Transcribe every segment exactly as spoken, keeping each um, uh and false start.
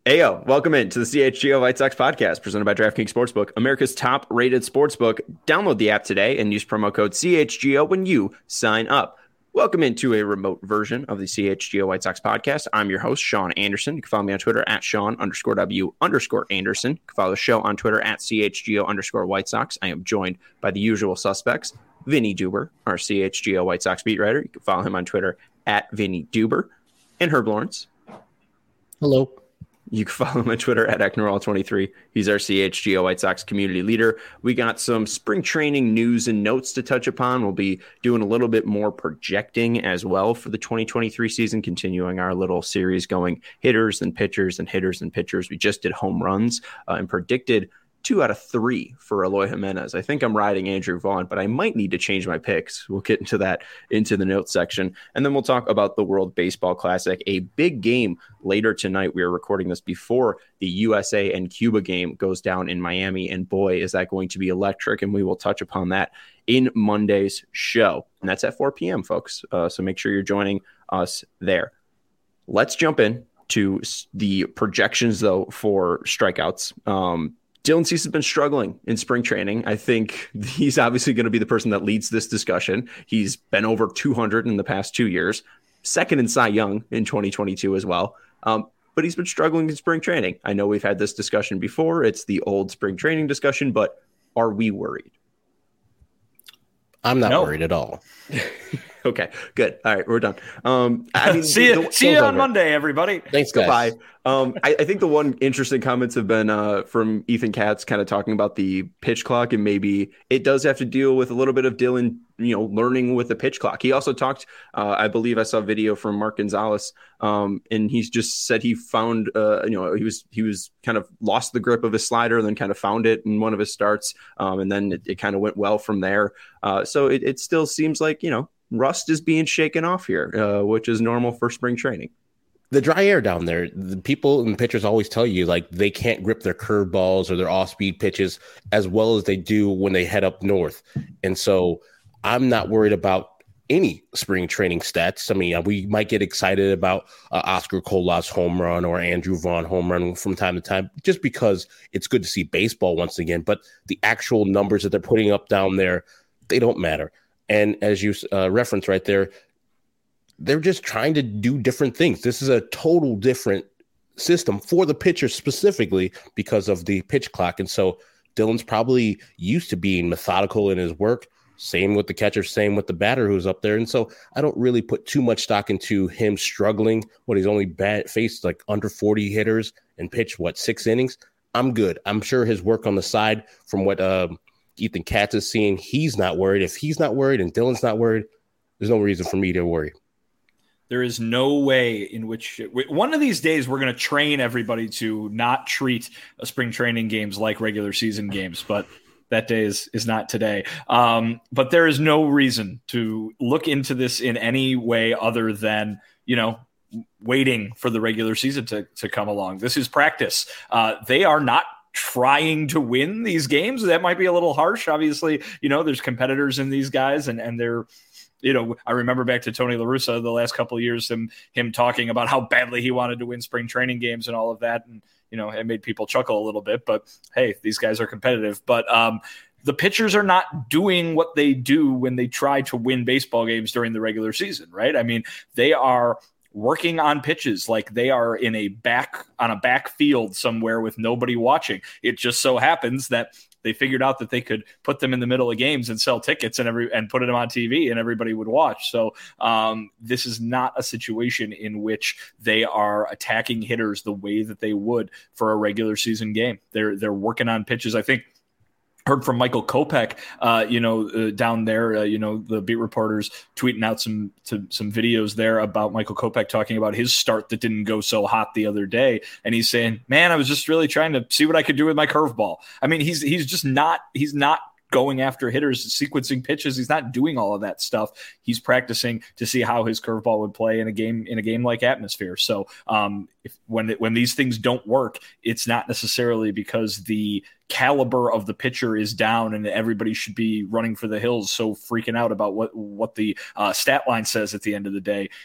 Ayo, welcome in to the C H G O White Sox podcast presented by DraftKings Sportsbook, America's top-rated sportsbook. Download the app today and use promo code C H G O when you sign up. Welcome into a remote version of the C H G O White Sox podcast. I'm your host, Sean Anderson. You can follow me on Twitter at Sean underscore W underscore Anderson. You can follow the show on Twitter at C H G O underscore White Sox. I am joined by the usual suspects, Vinny Duber, our C H G O White Sox beat writer. You can follow him on Twitter at Vinny Duber. And Herb Lawrence. Hello. You can follow him on Twitter at Ecknerall twenty-three. He's our C H G O White Sox community leader. We got some spring training news and notes to touch upon. We'll be doing a little bit more projecting as well for the twenty twenty-three season, continuing our little series going hitters and pitchers and hitters and pitchers. We just did home runs uh, and predicted two out of three for Eloy Jimenez. I think I'm riding Andrew Vaughn, but I might need to change my picks. We'll get into that into the notes section. And then we'll talk about the World Baseball Classic, a big game later tonight. We are recording this before the U S A and Cuba game goes down in Miami. And boy, is that going to be electric. And we will touch upon that in Monday's show. And that's at four p.m., folks. Uh, so make sure you're joining us there. Let's jump in to the projections, though, for strikeouts. Um, Dylan Cease has been struggling in spring training. I think he's obviously going to be the person that leads this discussion. He's been over two hundred in the past two years, second in Cy Young in twenty twenty-two as well. Um, but he's been struggling in spring training. I know we've had this discussion before. It's the old spring training discussion, but are we worried? I'm not no. worried at all. Okay, good. All right, we're done. Um, I mean, see you, the, see you on Monday, everybody. Thanks, guys. Goodbye. Um, I, I think the one interesting comments have been uh, from Ethan Katz, kind of talking about the pitch clock, and maybe it does have to deal with a little bit of Dylan, you know, learning with the pitch clock. He also talked, uh, I believe I saw a video from Mark Gonzalez, um, and he's just said he found, uh, you know, he was he was kind of lost the grip of his slider, and then kind of found it in one of his starts, um, and then it, it kind of went well from there. Uh, so it, it still seems like, you know, rust is being shaken off here, uh, which is normal for spring training. The dry air down there, the people and pitchers always tell you, like, they can't grip their curveballs or their off-speed pitches as well as they do when they head up north. And so I'm not worried about any spring training stats. I mean, we might get excited about uh, Oscar Colas home run or Andrew Vaughn home run from time to time, just because it's good to see baseball once again. But the actual numbers that they're putting up down there, they don't matter. And as you uh, referenced right there, they're just trying to do different things. This is a total different system for the pitcher specifically because of the pitch clock. And so Dylan's probably used to being methodical in his work. Same with the catcher, same with the batter who's up there. And so I don't really put too much stock into him struggling when he's only bat, faced like under forty hitters and pitched, what, six innings? I'm good. I'm sure his work on the side from what uh, Ethan Katz is seeing, he's not worried. If he's not worried and Dylan's not worried, there's no reason for me to worry. There is no way in which one of these days we're going to train everybody to not treat a spring training games like regular season games, but that day is, is not today. Um, but there is no reason to look into this in any way other than, you know, waiting for the regular season to, to come along. This is practice. Uh, they are not trying to win these games. That might be a little harsh. Obviously, you know, there's competitors in these guys, and, and they're, you know, I remember back to Tony La Russa the last couple of years, him, him talking about how badly he wanted to win spring training games and all of that. And, you know, it made people chuckle a little bit, but hey, these guys are competitive. But um, the pitchers are not doing what they do when they try to win baseball games during the regular season, right? I mean, they are working on pitches like they are in a back on a back field somewhere with nobody watching. It just so happens that they figured out that they could put them in the middle of games and sell tickets and every and put them on T V and everybody would watch. So um, this is not a situation in which they are attacking hitters the way that they would for a regular season game. They're they're working on pitches. I think heard from Michael Kopech, uh, you know, uh, down there, uh, you know, the beat reporters tweeting out some to, some videos there about Michael Kopech talking about his start that didn't go so hot the other day. And he's saying, man, I was just really trying to see what I could do with my curveball. I mean, he's he's just not he's not going after hitters, sequencing pitches. He's not doing all of that stuff. He's practicing to see how his curveball would play in a game in a game like atmosphere. So um, if when it, when these things don't work, it's not necessarily because the caliber of the pitcher is down and everybody should be running for the hills, so freaking out about what what the uh, stat line says at the end of the day.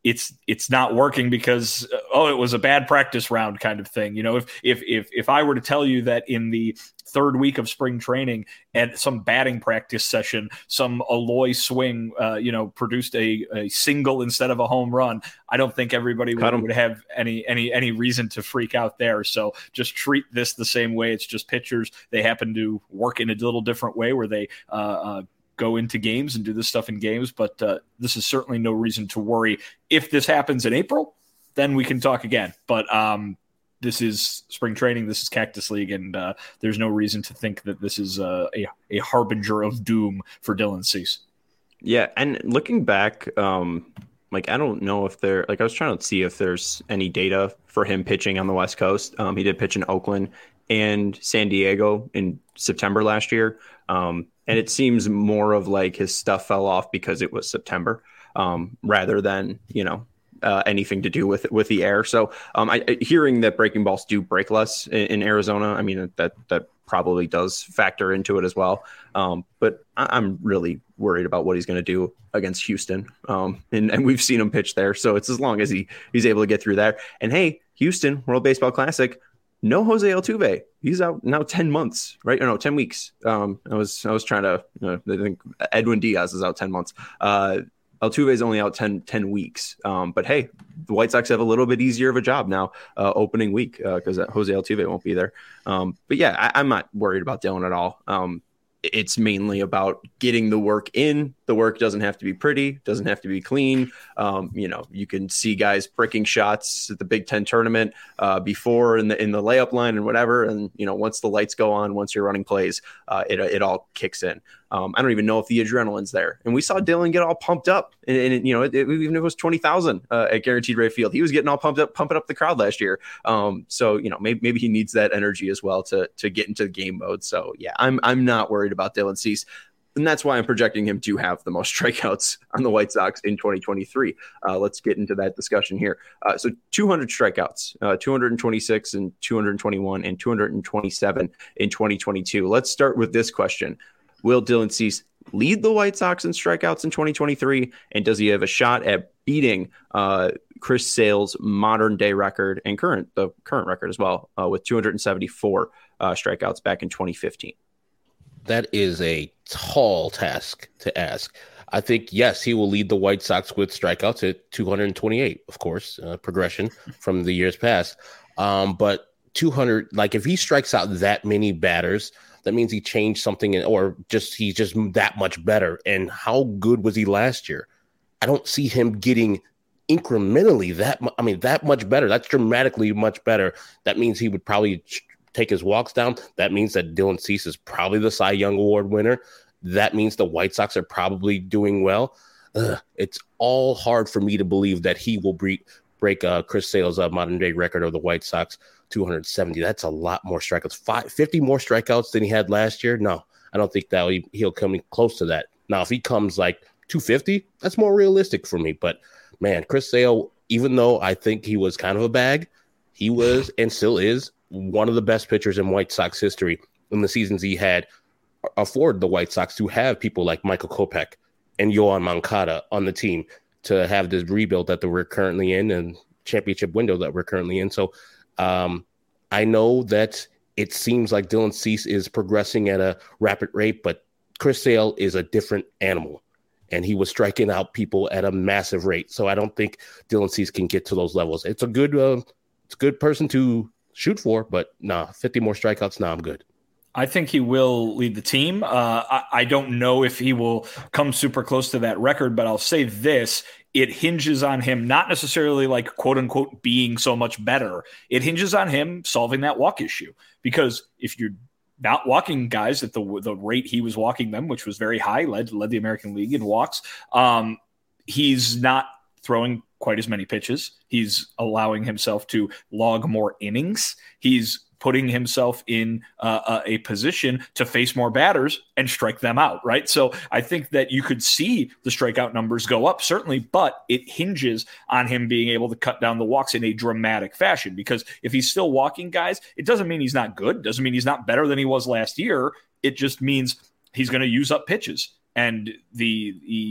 it's it's not working because uh, oh, it was a bad practice round kind of thing. You know, if if if if I were to tell you that in the third week of spring training at some batting practice session, some Aloy swing, uh, you know, produced a, a single instead of a home run, I don't think everybody would, would have any any any reason to freak out there. So just treat this the same way. It's just pitchers. They happen to work in a little different way where they uh, uh, go into games and do this stuff in games. But uh, this is certainly no reason to worry. If this happens in April, then we can talk again. But um, this is spring training. This is Cactus League, and uh, there's no reason to think that this is uh, a a harbinger of doom for Dylan Cease. Yeah, and looking back, um, like I don't know if there, like I was trying to see if there's any data for him pitching on the West Coast. Um, he did pitch in Oakland and San Diego in September last year, um, and it seems more of like his stuff fell off because it was September, um, rather than you know. Uh, anything to do with with the air. So um, I, I, hearing that breaking balls do break less in, in Arizona, I mean, that that probably does factor into it as well. Um, but I, I'm really worried about what he's going to do against Houston. Um, and, and we've seen him pitch there. So it's as long as he he's able to get through there. And hey, Houston, World Baseball Classic, no Jose Altuve. He's out now ten months, right? Or no, ten weeks. Um, I was I was trying to, you know, I think Edwin Diaz is out ten months. Uh, Altuve is only out ten, ten weeks. Um, but hey, the White Sox have a little bit easier of a job now uh, opening week because uh, Jose Altuve won't be there. Um, but yeah, I, I'm not worried about Dylan at all. Um, it's mainly about getting the work in. The work doesn't have to be pretty, doesn't have to be clean. Um, you know, you can see guys pricking shots at the Big Ten tournament uh, before in the in the layup line and whatever. And, you know, once the lights go on, once you're running plays, uh, it it all kicks in. Um, I don't even know if the adrenaline's there. And we saw Dylan get all pumped up. And, and you know, it, it, even if it was twenty thousand uh, at Guaranteed Rate Field, he was getting all pumped up, pumping up the crowd last year. Um, so, you know, maybe, maybe he needs that energy as well to to get into the game mode. So, yeah, I'm I'm not worried about Dylan Cease. And that's why I'm projecting him to have the most strikeouts on the White Sox in twenty twenty-three. Uh, let's get into that discussion here. Uh, so two hundred strikeouts, uh, two hundred twenty-six and two hundred twenty-one and two hundred twenty-seven in twenty twenty-two. Let's start with this question. Will Dylan Cease lead the White Sox in strikeouts in twenty twenty-three? And does he have a shot at beating uh, Chris Sale's modern day record and current the current record as well uh, with two hundred seventy-four uh, strikeouts back in twenty fifteen? That is a tall task to ask. I think, yes, he will lead the White Sox with strikeouts at two hundred twenty-eight, of course, uh, progression from the years past. Um, but two hundred, like if he strikes out that many batters, that means he changed something in, or just he's just that much better. And how good was he last year? I don't see him getting incrementally that mu- I mean, that much better. That's dramatically much better. That means he would probably take his walks down. That means that Dylan Cease is probably the Cy Young Award winner. That means the White Sox are probably doing well. Ugh, it's all hard for me to believe that he will break break uh, Chris Sale's uh, modern day record of the White Sox, two hundred seventy. That's a lot more strikeouts. Five, fifty more strikeouts than he had last year. No, I don't think that he, he'll come close to that. Now, if he comes like two fifty, that's more realistic for me. But man, Chris Sale, even though I think he was kind of a bag, he was and still is one of the best pitchers in White Sox history. In the seasons he had, afford the White Sox to have people like Michael Kopech and Yoan Moncada on the team to have this rebuild that we're currently in and championship window that we're currently in. So um, I know that it seems like Dylan Cease is progressing at a rapid rate, but Chris Sale is a different animal, and he was striking out people at a massive rate. So I don't think Dylan Cease can get to those levels. It's a good, uh, it's a good person to shoot for, but nah, fifty more strikeouts. Nah, I'm good. I think he will lead the team. Uh, I, I don't know if he will come super close to that record, but I'll say this. It hinges on him not necessarily like quote unquote being so much better. It hinges on him solving that walk issue, because if you're not walking guys at the the rate he was walking them, which was very high, led led the American League in walks, um, he's not throwing quite as many pitches. He's allowing himself to log more innings. He's putting himself in uh, a position to face more batters and strike them out, right? So I think that you could see the strikeout numbers go up, certainly, but it hinges on him being able to cut down the walks in a dramatic fashion, because if he's still walking guys, it doesn't mean he's not good, doesn't mean he's not better than he was last year. It just means he's going to use up pitches, and the the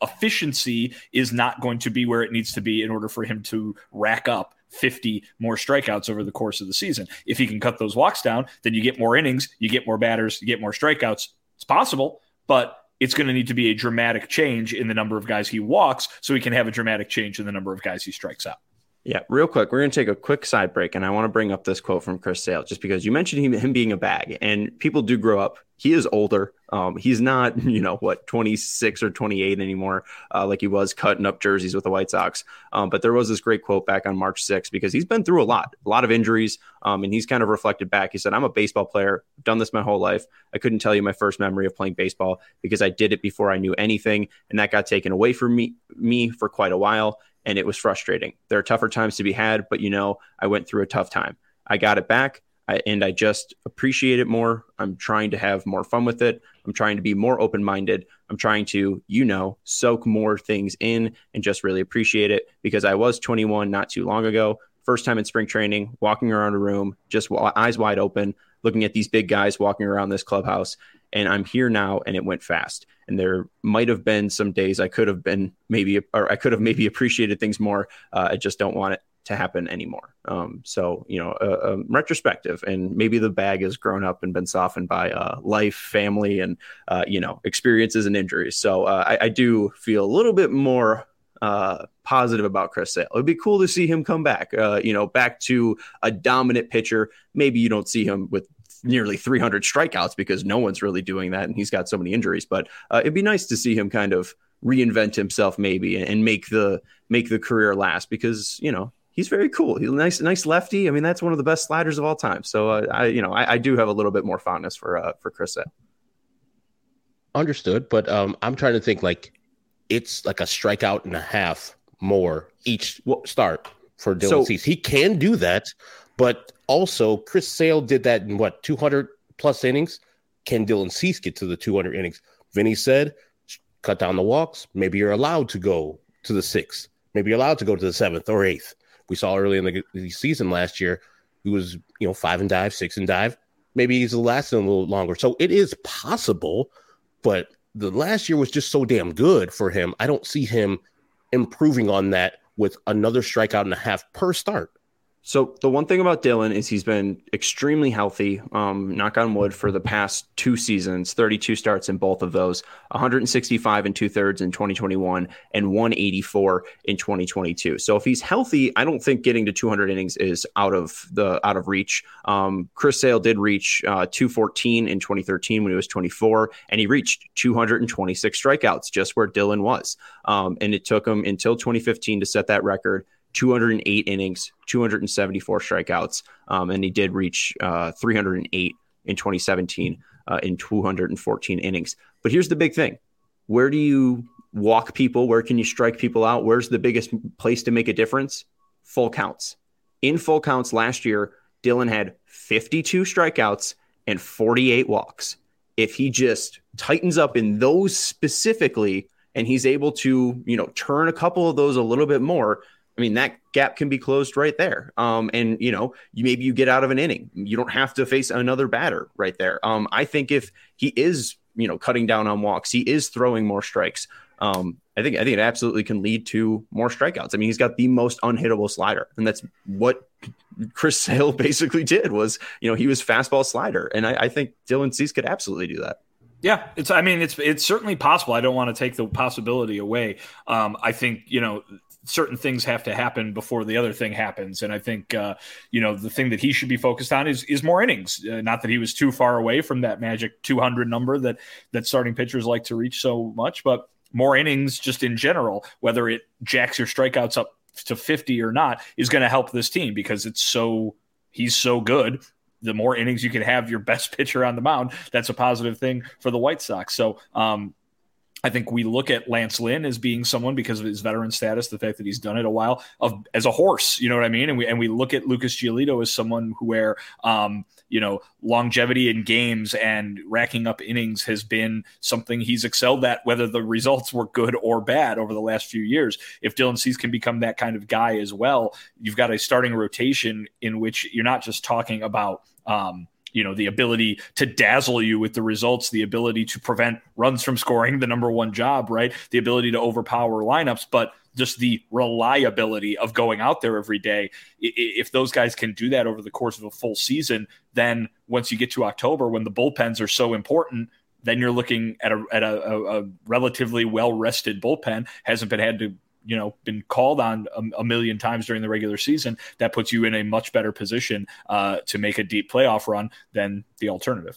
efficiency is not going to be where it needs to be in order for him to rack up fifty more strikeouts over the course of the season. If he can cut those walks down, then you get more innings, you get more batters, you get more strikeouts. It's possible, but it's going to need to be a dramatic change in the number of guys he walks so he can have a dramatic change in the number of guys he strikes out. Yeah, real quick, we're going to take a quick side break, and I want to bring up this quote from Chris Sale, just because you mentioned him, him being a bag, and people do grow up. He is older. Um, he's not, you know, what, twenty-six or twenty-eight anymore, uh, like he was cutting up jerseys with the White Sox. Um, but there was this great quote back on March sixth, because he's been through a lot, a lot of injuries, um, and he's kind of reflected back. He said, I'm a baseball player. I've done this my whole life. I couldn't tell you my first memory of playing baseball because I did it before I knew anything, and that got taken away from me, me for quite a while. And it was frustrating. There are tougher times to be had, but, you know, I went through a tough time. I got it back, I, and I just appreciate it more. I'm trying to have more fun with it. I'm trying to be more open-minded. I'm trying to, you know, soak more things in and just really appreciate it, because I was twenty-one not too long ago. First time in spring training, walking around a room, just eyes wide open, looking at these big guys walking around this clubhouse. And I'm here now, and it went fast. And there might have been some days I could have been maybe, or I could have maybe appreciated things more. Uh, I just don't want it to happen anymore. Um, so, you know, uh, um, retrospective, and maybe the bag has grown up and been softened by uh, life, family, and, uh, you know, experiences and injuries. So uh, I, I do feel a little bit more uh, positive about Chris Sale. It'd be cool to see him come back, uh, you know, back to a dominant pitcher. Maybe you don't see him with nearly three hundred strikeouts, because no one's really doing that, and he's got so many injuries. But uh, it'd be nice to see him kind of reinvent himself, maybe, and, and make the make the career last, because, you know, he's very cool. He's a nice, nice lefty. I mean, that's one of the best sliders of all time. So uh, I, you know, I, I do have a little bit more fondness for uh, for Chris Sale. Understood, but um, I'm trying to think, like, it's like a strikeout and a half more each start for Dylan So- Cease. He can do that, but also Chris Sale did that in what, two hundred plus innings? Can Dylan Cease get to the two hundred innings? Vinny said, cut down the walks. Maybe you're allowed to go to the sixth. Maybe you're allowed to go to the seventh or eighth. We saw early in the, the season last year, he was, you know, five and dive, six and dive. Maybe he's lasting a little longer. So it is possible, but the last year was just so damn good for him. I don't see him improving on that with another strikeout and a half per start. So the one thing about Dylan is he's been extremely healthy, um, knock on wood, for the past two seasons, thirty-two starts in both of those, one sixty-five and two thirds in twenty twenty-one and one eighty-four in twenty twenty-two. So if he's healthy, I don't think getting to two hundred innings is out of the out of reach. Um, Chris Sale did reach uh, two fourteen in twenty thirteen when he was twenty-four, and he reached two hundred twenty-six strikeouts, just where Dylan was. Um, and it took him until twenty fifteen to set that record. two hundred eight innings, two hundred seventy-four strikeouts, um, and he did reach uh, three hundred eight in twenty seventeen uh, in two hundred fourteen innings. But here's the big thing. Where do you walk people? Where can you strike people out? Where's the biggest place to make a difference? Full counts. In full counts last year, Dylan had fifty-two strikeouts and forty-eight walks. If he just tightens up in those specifically, and he's able to, you know, turn a couple of those a little bit more, I mean, that gap can be closed right there. Um, and, you know, you, maybe you get out of an inning. You don't have to face another batter right there. Um, I think if he is, you know, cutting down on walks, he is throwing more strikes. Um, I think I think it absolutely can lead to more strikeouts. I mean, he's got the most unhittable slider, and that's what Chris Sale basically did was, you know, he was fastball slider. And I, I think Dylan Cease could absolutely do that. Yeah, it's. I mean, it's it's certainly possible. I don't want to take the possibility away. Um, I think, you know, certain things have to happen before the other thing happens. And I think, uh, you know, the thing that he should be focused on is is more innings. Uh, not that he was too far away from that magic two hundred number that that starting pitchers like to reach so much, but more innings just in general, whether it jacks your strikeouts up to fifty or not, is going to help this team because it's so he's so good. The more innings you can have your best pitcher on the mound, that's a positive thing for the White Sox. So, um, I think we look at Lance Lynn as being someone, because of his veteran status, the fact that he's done it a while, of as a horse, you know what I mean? And we and we look at Lucas Giolito as someone who, where um, you know, longevity in games and racking up innings has been something he's excelled at, whether the results were good or bad over the last few years. If Dylan Cease can become that kind of guy as well, you've got a starting rotation in which you're not just talking about um, you know, the ability to dazzle you with the results, the ability to prevent runs from scoring, the number one job, right? The ability to overpower lineups, but just the reliability of going out there every day. If those guys can do that over the course of a full season, then once you get to October, when the bullpens are so important, then you're looking at a at a, a relatively well-rested bullpen, hasn't been had to, you know, been called on a, a million times during the regular season. That puts you in a much better position uh, to make a deep playoff run than the alternative.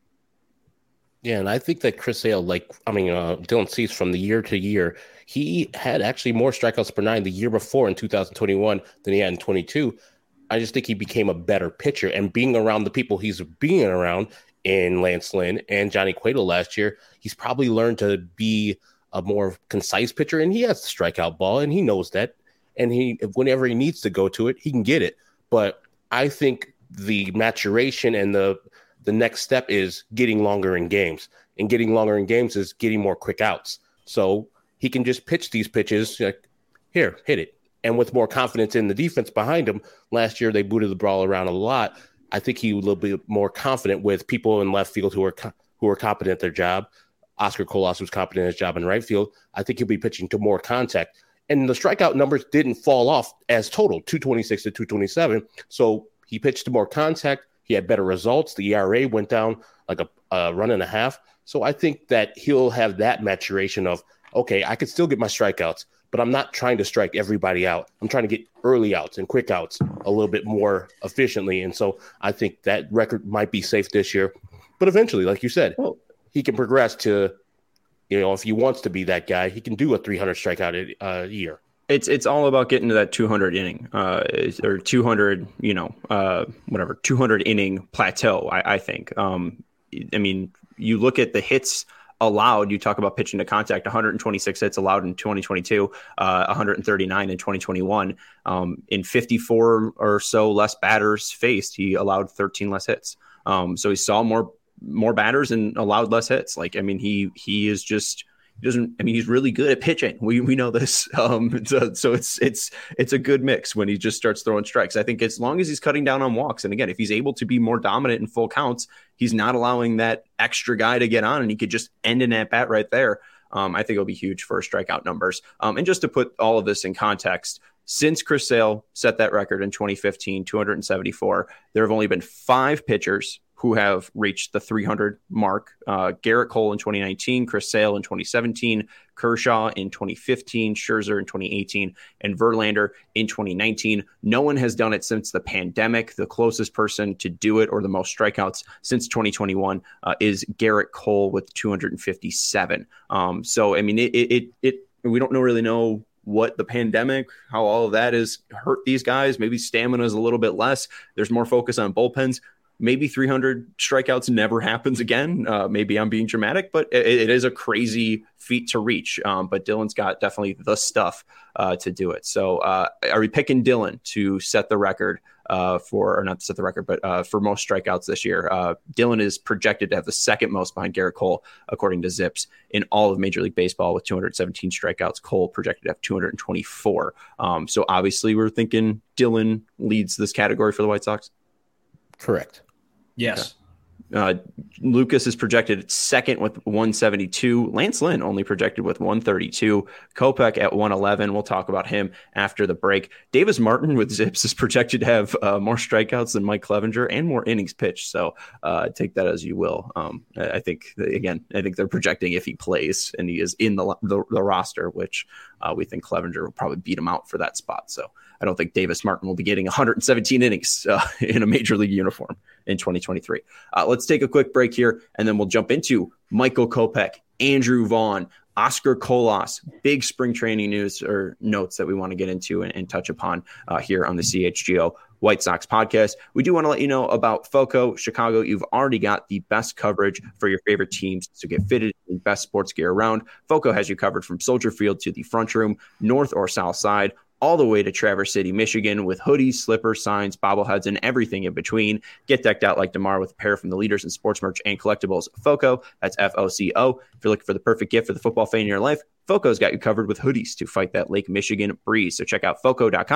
Yeah, and I think that Chris Sale, like, I mean, uh, Dylan Cease, from the year to year, he had actually more strikeouts per nine the year before in two thousand twenty-one than he had in twenty-two. I just think he became a better pitcher, and being around the people he's being around in Lance Lynn and Johnny Cueto last year, he's probably learned to be a more concise pitcher, and he has the strikeout ball, and he knows that. And he, whenever he needs to go to it, he can get it. But I think the maturation and the the next step is getting longer in games, and getting longer in games is getting more quick outs. So he can just pitch these pitches like, here, hit it. And with more confidence in the defense behind him, last year they booted the ball around a lot. I think he will be more confident with people in left field who are who are competent at their job. Oscar Colas was competent at his job in right field. I think he'll be pitching to more contact. And the strikeout numbers didn't fall off as total, two twenty-six to two twenty-seven. So he pitched to more contact. He had better results. The E R A went down like a, a run and a half. So I think that he'll have that maturation of, okay, I could still get my strikeouts, but I'm not trying to strike everybody out. I'm trying to get early outs and quick outs a little bit more efficiently. And so I think that record might be safe this year. But eventually, like you said, well, he can progress to, you know, if he wants to be that guy, he can do a three hundred strikeout a uh, year. It's it's all about getting to that two hundred inning uh, or two hundred, you know, uh, whatever, two hundred inning plateau, I, I think. Um, I mean, you look at the hits allowed, you talk about pitching to contact, one hundred twenty-six hits allowed in twenty twenty-two, uh, one hundred thirty-nine in twenty twenty-one. Um, in fifty-four or so less batters faced, he allowed thirteen less hits. Um, so he saw more more batters and allowed less hits. Like, I mean, he he is just he doesn't. I mean, he's really good at pitching. We we know this. Um, so, so it's it's it's a good mix when he just starts throwing strikes. I think as long as he's cutting down on walks, and again, if he's able to be more dominant in full counts, he's not allowing that extra guy to get on, and he could just end an at bat right there. Um, I think it'll be huge for strikeout numbers. Um, and just to put all of this in context, since Chris Sale set that record in twenty fifteen, two hundred seventy-four, there have only been five pitchers who have reached the three hundred mark. Uh, Garrett Cole in twenty nineteen, Chris Sale in twenty seventeen, Kershaw in twenty fifteen, Scherzer in twenty eighteen, and Verlander in twenty nineteen. No one has done it since the pandemic. The closest person to do it, or the most strikeouts since twenty twenty-one, uh, is Garrett Cole with two hundred fifty-seven. Um, so, I mean, it, it, it, it we don't know really know what the pandemic, how all of that has hurt these guys. Maybe stamina is a little bit less. There's more focus on bullpens. Maybe three hundred strikeouts never happens again. Uh, maybe I'm being dramatic, but it, it is a crazy feat to reach. Um, but Dylan's got definitely the stuff uh, to do it. So uh, are we picking Dylan to set the record uh, for, or not to set the record, but uh, for most strikeouts this year? Uh, Dylan is projected to have the second most behind Garrett Cole, according to Zips, in all of Major League Baseball with two hundred seventeen strikeouts. Cole projected to have two hundred twenty-four. Um, so obviously we're thinking Dylan leads this category for the White Sox. Correct. Yes. Okay. Uh, Lucas is projected at second with one seventy-two. Lance Lynn only projected with one thirty-two. Kopech at one eleven. We'll talk about him after the break. Davis Martin with Zips is projected to have uh, more strikeouts than Mike Clevenger and more innings pitched. So uh, take that as you will. Um, I think, again, I think they're projecting if he plays and he is in the the, the roster, which uh, we think Clevenger will probably beat him out for that spot. So I don't think Davis Martin will be getting one hundred seventeen innings uh, in a major league uniform in twenty twenty-three. Uh, let's take a quick break here, and then we'll jump into Michael Kopech, Andrew Vaughn, Oscar Colas, big spring training news or notes that we want to get into and, and touch upon uh, here on the C H G O White Sox podcast. We do want to let you know about FOCO Chicago. You've already got the best coverage for your favorite teams to get fitted in best sports gear around. FOCO has you covered from Soldier Field to the front room, north or south side, all the way to Traverse City, Michigan, with hoodies, slippers, signs, bobbleheads, and everything in between. Get decked out like DeMar with a pair from the leaders in sports merch and collectibles. FOCO, that's F O C O. If you're looking for the perfect gift for the football fan in your life, FOCO's got you covered with hoodies to fight that Lake Michigan breeze. So check out foco dot com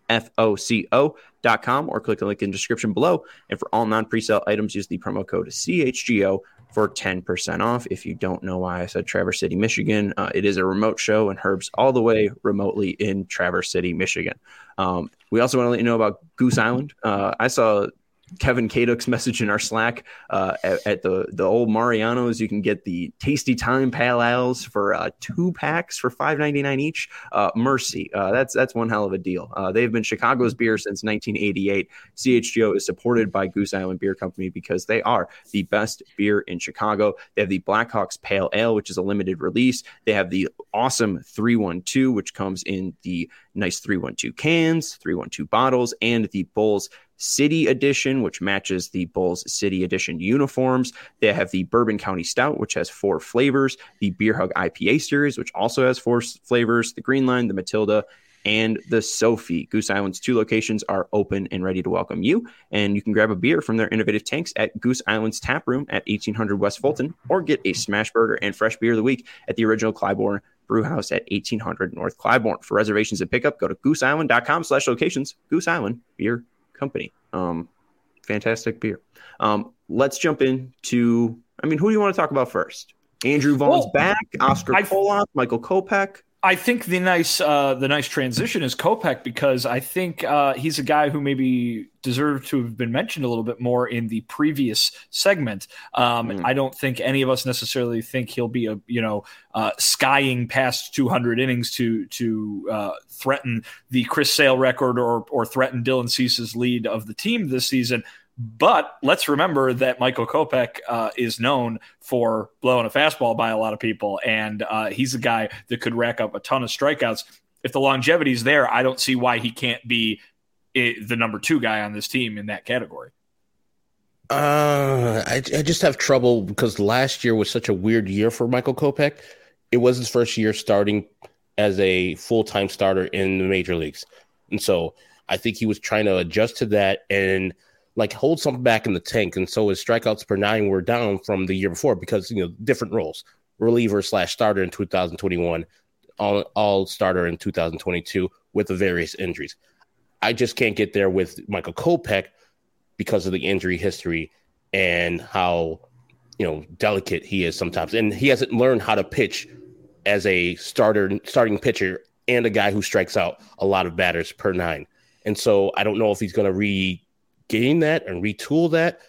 F O C O dot com, or click the link in the description below. And for all non-presale items, use the promo code C H G O for ten percent off. If you don't know why I said Traverse City, Michigan, uh, it is a remote show, and Herb's all the way remotely in Traverse City, Michigan. Um, we also want to let you know about Goose Island. Uh, I saw Kevin Kaduk's message in our Slack uh, at, at the, the old Mariano's. You can get the Tasty Time Pale Ales for uh, two packs for five ninety-nine each. Uh, Mercy, uh, that's that's one hell of a deal. Uh, they've been Chicago's beer since nineteen eighty-eight. C H G O is supported by Goose Island Beer Company because they are the best beer in Chicago. They have the Blackhawks Pale Ale, which is a limited release. They have the awesome three one two, which comes in the nice three one two cans, three one two bottles, and the Bulls City Edition, which matches the Bulls City Edition uniforms. They have the Bourbon County Stout, which has four flavors, the Beer Hug I P A series, which also has four flavors, the Green Line, the Matilda, and the Sophie. Goose Island's two locations are open and ready to welcome you, and you can grab a beer from their innovative tanks at Goose Island's Tap Room at eighteen hundred West Fulton, or get a smash burger and fresh beer of the week at the original Clybourne Brewhouse at eighteen hundred North Clybourne. For reservations and pickup, go to gooseisland.com slash locations. Goose Island Beer Company. Um, fantastic beer. Um, let's jump into, I mean, who do you want to talk about first? Andrew Vaughn's well, back, Oscar Koloff, Michael Kopech. I think the nice uh, the nice transition is Kopech, because I think uh, he's a guy who maybe deserved to have been mentioned a little bit more in the previous segment. Um, mm. I don't think any of us necessarily think he'll be a you know uh, skying past two hundred innings to to uh, threaten the Chris Sale record or or threaten Dylan Cease's lead of the team this season. But let's remember that Michael Kopech uh, is known for blowing a fastball by a lot of people, and uh, he's a guy that could rack up a ton of strikeouts. If the longevity is there, I don't see why he can't be it, the number two guy on this team in that category. Uh, I, I just have trouble because last year was such a weird year for Michael Kopech. It was his first year starting as a full-time starter in the major leagues. And so I think he was trying to adjust to that and like hold something back in the tank. And so his strikeouts per nine were down from the year before because, you know, different roles, reliever slash starter in two thousand twenty-one, all, all starter in two thousand twenty-two with the various injuries. I just can't get there with Michael Kopech because of the injury history and how, you know, delicate he is sometimes. And he hasn't learned how to pitch as a starter, starting pitcher and a guy who strikes out a lot of batters per nine. And so I don't know if he's going to re gain that and retool that,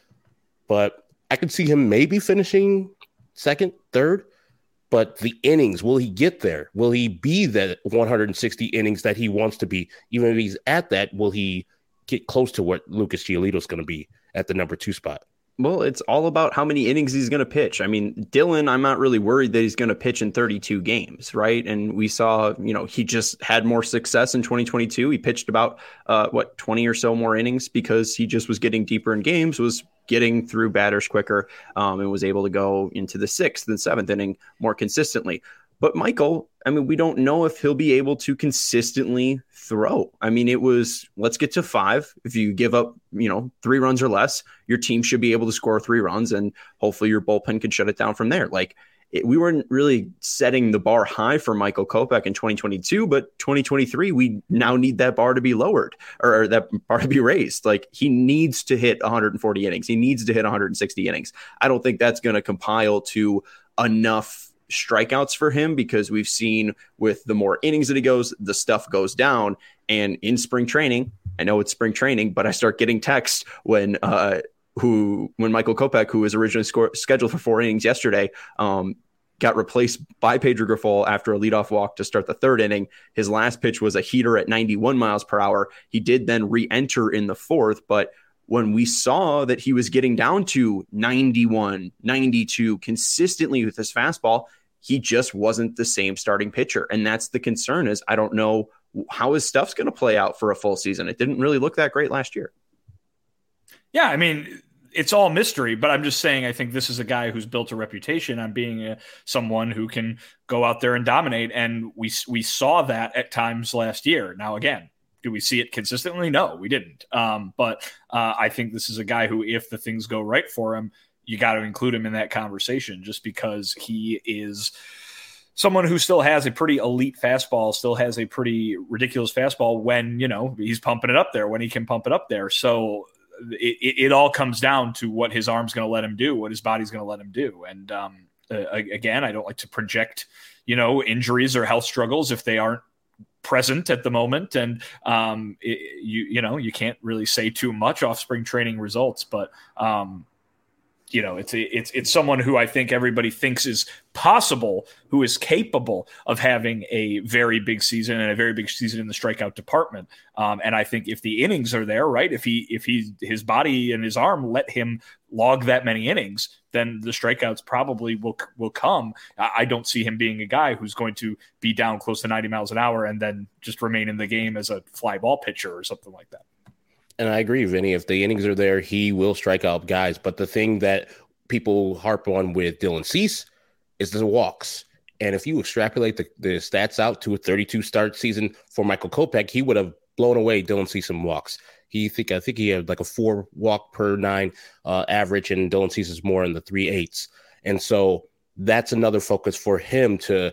but I could see him maybe finishing second, third, but the innings, will he get there? Will he be that one hundred sixty innings that he wants to be? Even if he's at that, will he get close to what Lucas Giolito is going to be at the number two spot? Well, it's all about how many innings he's going to pitch. I mean, Dylan, I'm not really worried that he's going to pitch in thirty-two games, right? And we saw, you know, he just had more success in twenty twenty-two. He pitched about, uh, what, twenty or so more innings because he just was getting deeper in games, was getting through batters quicker, um, and was able to go into the sixth and seventh inning more consistently. But Michael, I mean, we don't know if he'll be able to consistently throw. I mean, it was, let's get to five. If you give up, you know, three runs or less, your team should be able to score three runs, and hopefully your bullpen can shut it down from there. Like, it, we weren't really setting the bar high for Michael Kopech in twenty twenty-two, but twenty twenty-three, we now need that bar to be lowered, or, or that bar to be raised. Like, he needs to hit one hundred forty innings. He needs to hit one hundred sixty innings. I don't think that's going to compile to enough strikeouts for him, because we've seen with the more innings that he goes, the stuff goes down. And in spring training, I know it's spring training, but I start getting texts when uh who when Michael Kopech, who was originally score, scheduled for four innings yesterday, um got replaced by Pedro Grifol after a leadoff walk to start the third inning. His last pitch was a heater at ninety-one miles per hour. He did then re-enter in the fourth, but when we saw that he was getting down to ninety-one, ninety-two consistently with his fastball, he just wasn't the same starting pitcher. And that's the concern, is I don't know how his stuff's going to play out for a full season. It didn't really look that great last year. Yeah, I mean, it's all mystery, but I'm just saying, I think this is a guy who's built a reputation on being a, someone who can go out there and dominate. And we, we saw that at times last year. Now, again, do we see it consistently? No, we didn't. Um, but uh, I think this is a guy who, if the things go right for him, you got to include him in that conversation, just because he is someone who still has a pretty elite fastball, still has a pretty ridiculous fastball when, you know, he's pumping it up there, when he can pump it up there. So it, it, it all comes down to what his arm's going to let him do, what his body's going to let him do. And um, uh, again, I don't like to project, you know, injuries or health struggles if they aren't present at the moment. And um, it, you, you know, you can't really say too much off spring training results, but um, you know, it's it's it's someone who I think everybody thinks is possible, who is capable of having a very big season and a very big season in the strikeout department. Um, and I think if the innings are there, right, if he if he his body and his arm let him log that many innings, then the strikeouts probably will will come. I don't see him being a guy who's going to be down close to ninety miles an hour and then just remain in the game as a fly ball pitcher or something like that. And I agree, Vinny. If the innings are there, he will strike out guys. But the thing that people harp on with Dylan Cease is the walks. And if you extrapolate the, the stats out to a thirty-two start season for Michael Kopech, he would have blown away Dylan Cease in walks. He think I think he had like a four walk per nine uh, average, and Dylan Cease is more in the three eighths. And so that's another focus for him to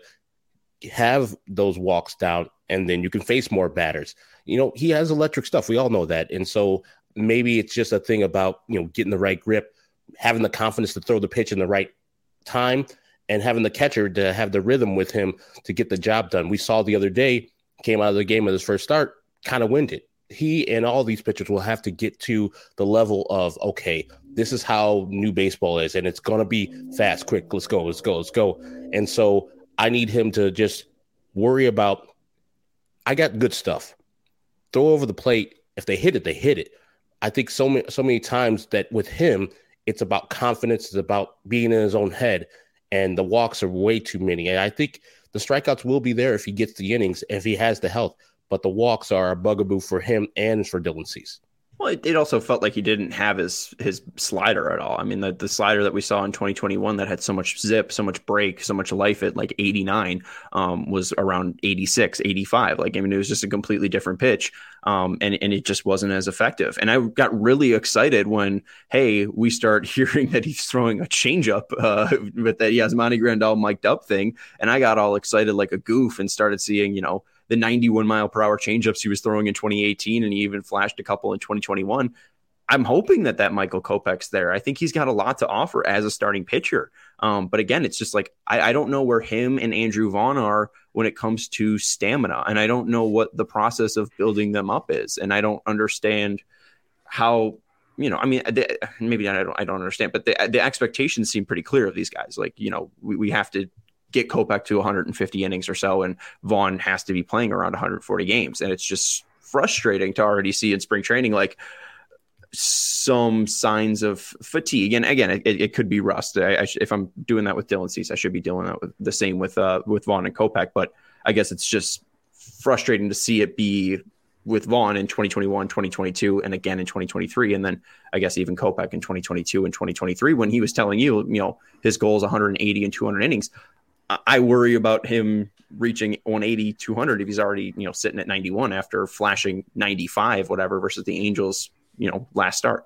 have those walks down, and then you can face more batters. You know, he has electric stuff. We all know that. And so maybe it's just a thing about, you know, getting the right grip, having the confidence to throw the pitch in the right time, and having the catcher to have the rhythm with him to get the job done. We saw the other day, came out of the game with his first start, kind of winded. He and all these pitchers will have to get to the level of, okay, this is how new baseball is, and it's going to be fast, quick, let's go, let's go, let's go. And so I need him to just worry about, I got good stuff. Throw over the plate. If they hit it, they hit it. I think so many, so many times that with him, it's about confidence. It's about being in his own head, and the walks are way too many. And I think the strikeouts will be there if he gets the innings, if he has the health, but the walks are a bugaboo for him and for Dylan Cease. Well, it, it also felt like he didn't have his his slider at all. I mean, the, the slider that we saw in twenty twenty-one that had so much zip, so much break, so much life at like eighty-nine um, was around eighty-six, eighty-five. Like, I mean, it was just a completely different pitch, um, and, and it just wasn't as effective. And I got really excited when, hey, we start hearing that he's throwing a changeup uh, with that Yasmani Grandal mic'd up thing. And I got all excited like a goof and started seeing, you know, the ninety-one mile per hour changeups he was throwing in twenty eighteen, and he even flashed a couple in twenty twenty-one. I'm hoping that that Michael Kopech's there. I think he's got a lot to offer as a starting pitcher. Um, but again, it's just like, I, I don't know where him and Andrew Vaughn are when it comes to stamina. And I don't know what the process of building them up is. And I don't understand how, you know, I mean, they, maybe I don't, I don't understand, but the, the expectations seem pretty clear of these guys. Like, you know, we, we have to get Kopech to one hundred fifty innings or so, and Vaughn has to be playing around one hundred forty games. And it's just frustrating to already see in spring training, like, some signs of fatigue. And again, it, it could be rust. I, I sh- if I'm doing that with Dylan Cease, I should be doing that with the same with, uh, with Vaughn and Kopech, but I guess it's just frustrating to see it be with Vaughn in twenty twenty-one, twenty twenty-two, and again in twenty twenty-three. And then I guess even Kopech in twenty twenty-two and twenty twenty-three, when he was telling you, you know, his goal is one hundred eighty and two hundred innings. I worry about him reaching one eighty, two hundred if he's already, you know, sitting at ninety-one after flashing ninety-five, whatever, versus the Angels, you know, last start.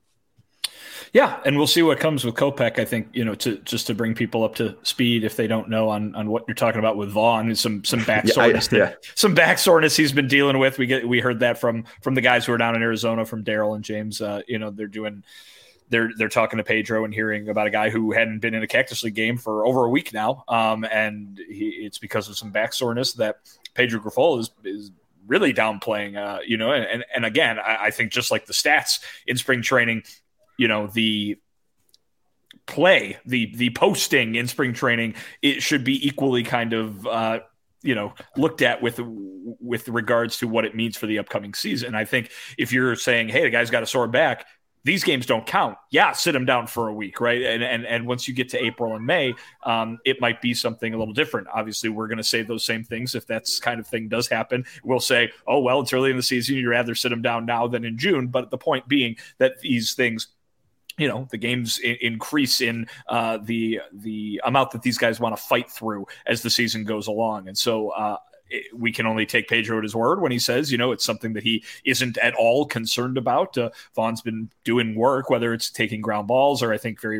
Yeah, and we'll see what comes with Kopech. I think, you know, to just to bring people up to speed if they don't know on on what you're talking about with Vaughn, and some some back soreness, yeah, I, yeah. some back soreness he's been dealing with. We get we heard that from from the guys who are down in Arizona, from Daryl and James. Uh, you know, they're doing. They're they're talking to Pedro and hearing about a guy who hadn't been in a Cactus League game for over a week now, um, and he, it's because of some back soreness that Pedro Grifol is is really downplaying. Uh, you know, and and again, I, I think just like the stats in spring training, you know, the play, the the posting in spring training, it should be equally kind of uh, you know, looked at with with regards to what it means for the upcoming season. I think if you're saying, hey, the guy's got a sore back, these games don't count. Yeah, sit him down for a week, right? And and and once you get to April and May, um, it might be something a little different. Obviously, we're going to say those same things if that kind of thing does happen. We'll say, oh, well, it's early in the season. You'd rather sit him down now than in June. But the point being that these things, you know, the games I- increase in uh, the the amount that these guys want to fight through as the season goes along. And so uh, it, we can only take Pedro at his word when he says, you know, it's something that he isn't at all concerned about. Uh, Vaughn's been doing work, whether it's taking ground balls or I think very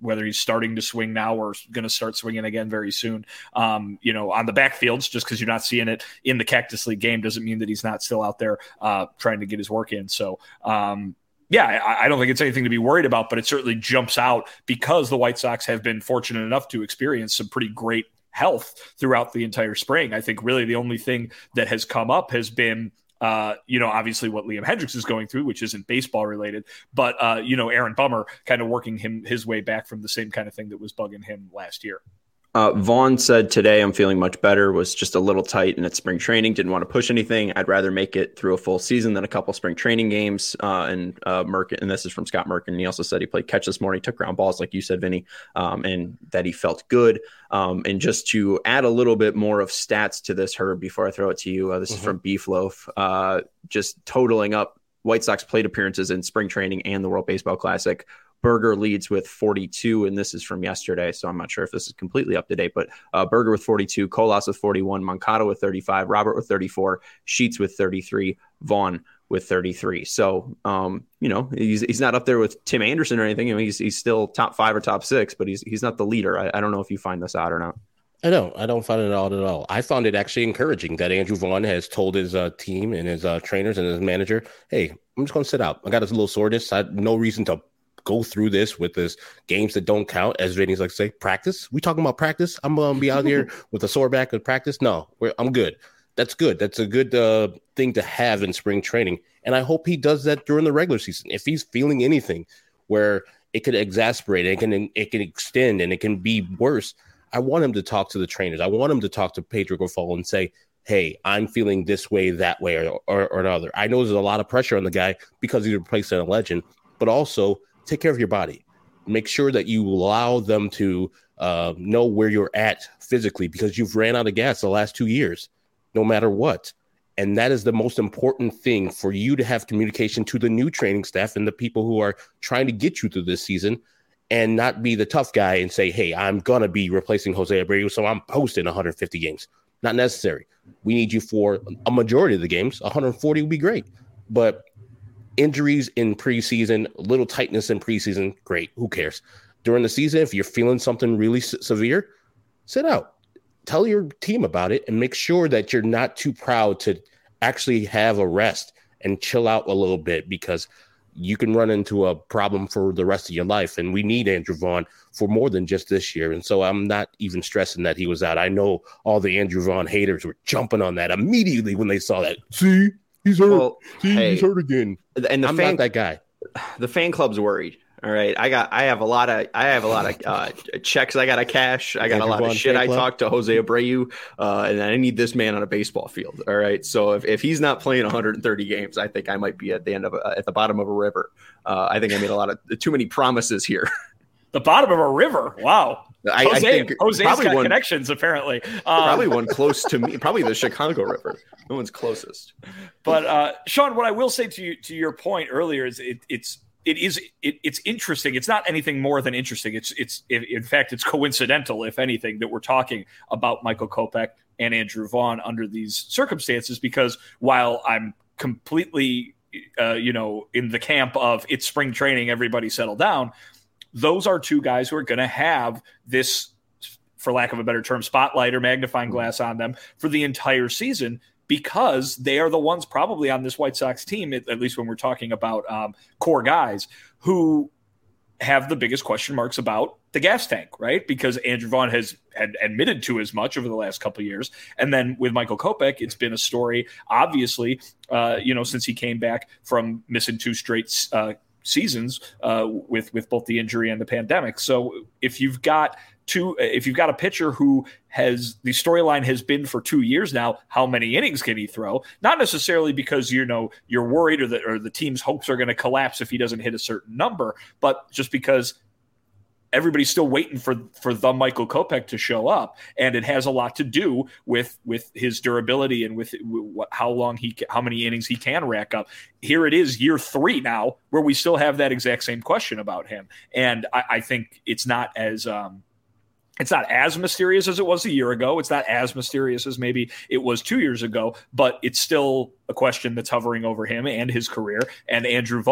whether he's starting to swing now or going to start swinging again very soon. Um, you know, on the backfields, just because you're not seeing it in the Cactus League game doesn't mean that he's not still out there uh, trying to get his work in. So, um, yeah, I, I don't think it's anything to be worried about, but it certainly jumps out because the White Sox have been fortunate enough to experience some pretty great health throughout the entire spring. I think really the only thing that has come up has been, uh, you know, obviously what Liam Hendriks is going through, which isn't baseball related, but, uh, you know, Aaron Bummer kind of working him his way back from the same kind of thing that was bugging him last year. Uh, Vaughn said today, I'm feeling much better, was just a little tight and it's spring training. Didn't want to push anything. I'd rather make it through a full season than a couple spring training games. Uh, and uh, Merkin, and this is from Scott Merkin. He also said he played catch this morning, took ground balls, like you said, Vinny, um, and that he felt good. Um, and just to add a little bit more of stats to this, Herb, before I throw it to you, uh, this mm-hmm. is from Beef Loaf, uh, just totaling up White Sox plate appearances in spring training and the World Baseball Classic. Berger leads with forty-two, and this is from yesterday, so I'm not sure if this is completely up to date, but uh, Berger with forty-two, Colas with forty-one, Moncada with thirty-five, Robert with thirty-four, Sheets with thirty-three, Vaughn with thirty-three. So, um, you know, he's he's not up there with Tim Anderson or anything. I mean, he's he's still top five or top six, but he's he's not the leader. I, I don't know if you find this out or not. I don't. I don't find it odd at all. I found it actually encouraging that Andrew Vaughn has told his uh, team and his uh, trainers and his manager, hey, I'm just going to sit out. I got a little soreness. I had no reason to go through this with this games that don't count, as Vinny's like to say, practice. We talking about practice? I'm going to be out here with a sore back and practice? No, we're, I'm good. That's good. That's a good uh, thing to have in spring training. And I hope he does that during the regular season. If he's feeling anything where it could exasperate, it can, it can extend, and it can be worse, I want him to talk to the trainers. I want him to talk to Pedro Grifol and say, hey, I'm feeling this way, that way, or, or, or another. I know there's a lot of pressure on the guy because he's replacing a legend, but also take care of your body. Make sure that you allow them to uh, know where you're at physically, because you've ran out of gas the last two years, no matter what. And that is the most important thing, for you to have communication to the new training staff and the people who are trying to get you through this season, and not be the tough guy and say, hey, I'm going to be replacing Jose Abreu, so I'm posting one hundred fifty games. Not necessary. We need you for a majority of the games. one hundred forty would be great. But injuries in preseason, little tightness in preseason, great. Who cares? During the season, if you're feeling something really s- severe, sit out. Tell your team about it and make sure that you're not too proud to actually have a rest and chill out a little bit, because you can run into a problem for the rest of your life. And we need Andrew Vaughn for more than just this year. And so I'm not even stressing that he was out. I know all the Andrew Vaughn haters were jumping on that immediately when they saw that. See? He's hurt. Well, See, hey, he's hurt again. And the I'm fan, not that guy. The fan club's worried. All right, I got. I have a lot of. I have a lot of uh, checks I got to cash. I got Andrew a lot Vaughn of shit I club. talked to Jose Abreu, uh, and I need this man on a baseball field. All right, so if, if he's not playing one hundred thirty games, I think I might be at the end of a, at the bottom of a river. Uh, I think I made a lot of too many promises here. The bottom of a river. Wow. I, Jose, I think Jose's probably got one, connections, apparently. Um, probably one close to me. Probably the Chicago River. No one's closest. But uh, Sean, what I will say to you, to your point earlier, is it, it's it is it, it's interesting. It's not anything more than interesting. It's it's in fact it's coincidental, if anything, that we're talking about Michael Kopech and Andrew Vaughn under these circumstances. Because while I'm completely uh, you know in the camp of it's spring training, everybody settle down, those are two guys who are going to have this, for lack of a better term, spotlight or magnifying glass on them for the entire season, because they are the ones probably on this White Sox team, at, at least when we're talking about um, core guys, who have the biggest question marks about the gas tank, right? Because Andrew Vaughn has had admitted to as much over the last couple of years. And then with Michael Kopech, it's been a story, obviously, uh, you know, since he came back from missing two straight uh seasons uh, with with both the injury and the pandemic. So if you've got two, if you've got a pitcher who has the storyline has been for two years now, how many innings can he throw? Not necessarily because you know you're worried or that or the team's hopes are going to collapse if he doesn't hit a certain number, but just because everybody's still waiting for for the Michael Kopech to show up, and it has a lot to do with with his durability and with what, how long he how many innings he can rack up. Here it is, year three now, where we still have that exact same question about him, and I, I think it's not as um, it's not as mysterious as it was a year ago. It's not as mysterious as maybe it was two years ago, but it's still a question that's hovering over him and his career. And Andrew Vaughn,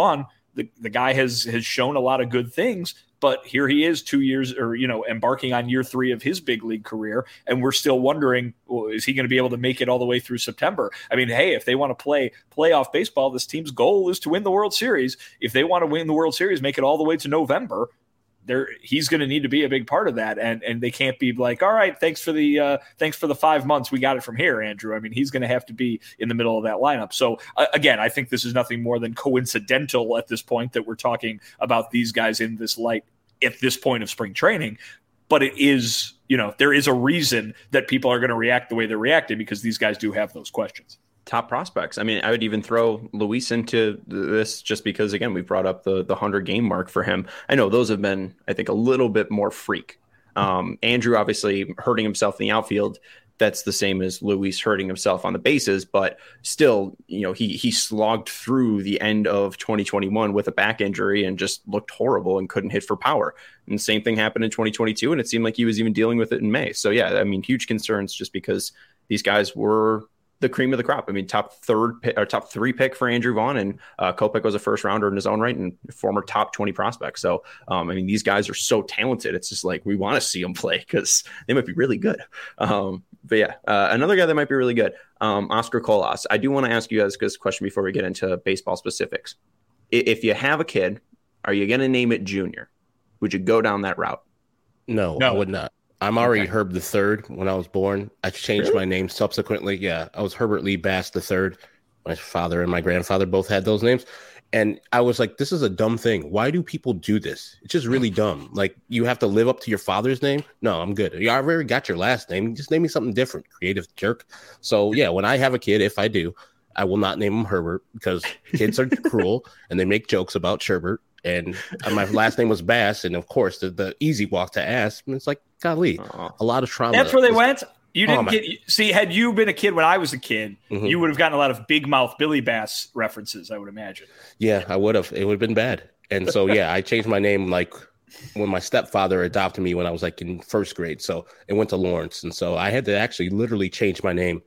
the, the guy has has shown a lot of good things, but here he is two years or, you know, embarking on year three of his big league career. And we're still wondering, well, is he going to be able to make it all the way through September? I mean, hey, if they want to play playoff baseball, this team's goal is to win the World Series. If they want to win the World Series, make it all the way to November, there he's going to need to be a big part of that. And and they can't be like, all right, thanks for the uh, thanks for the five months. We got it from here, Andrew. I mean, he's going to have to be in the middle of that lineup. So uh, again, I think this is nothing more than coincidental at this point that we're talking about these guys in this light at this point of spring training. But it is, you know, there is a reason that people are going to react the way they're reacting, because these guys do have those questions. Top prospects. I mean, I would even throw Luis into this just because, again, we brought up the the hundred game mark for him. I know those have been, I think, a little bit more freak. Um, Andrew obviously hurting himself in the outfield. That's the same as Luis hurting himself on the bases, but still, you know, he he slogged through the end of twenty twenty-one with a back injury and just looked horrible and couldn't hit for power. And the same thing happened in twenty twenty-two, and it seemed like he was even dealing with it in May. So yeah, I mean, huge concerns just because these guys were the cream of the crop. I mean, top third pick, or top three pick for Andrew Vaughn, and uh, Kopech was a first rounder in his own right and former top twenty prospect. So, um, I mean, these guys are so talented. It's just like we want to see them play because they might be really good. Um, but yeah, uh, another guy that might be really good, um, Oscar Colas. I do want to ask you guys this question before we get into baseball specifics. If you have a kid, are you going to name it Junior? Would you go down that route? No, No. I would not. I'm already Okay. Herb the Third when I was born. I changed Really? my name subsequently. Yeah, I was Herbert Lee Bass the Third. My father and my grandfather both had those names. And I was like, this is a dumb thing. Why do people do this? It's just really dumb. Like, you have to live up to your father's name? No, I'm good. You already got your last name. Just name me something different, creative jerk. So, yeah, when I have a kid, if I do, I will not name him Herbert because kids are cruel and they make jokes about Sherbert. And my last name was Bass. And, of course, the, the easy walk to ask. And it's like, golly, Aw. a lot of trauma. That's where they went. You Oh, didn't my- get see. Had you been a kid when I was a kid, Mhm. you would have gotten a lot of big mouth Billy Bass references, I would imagine. Yeah, I would have. It would have been bad. And so, yeah, I changed my name like when my stepfather adopted me when I was like in first grade. So it went to Lawrence. And so I had to actually literally change my name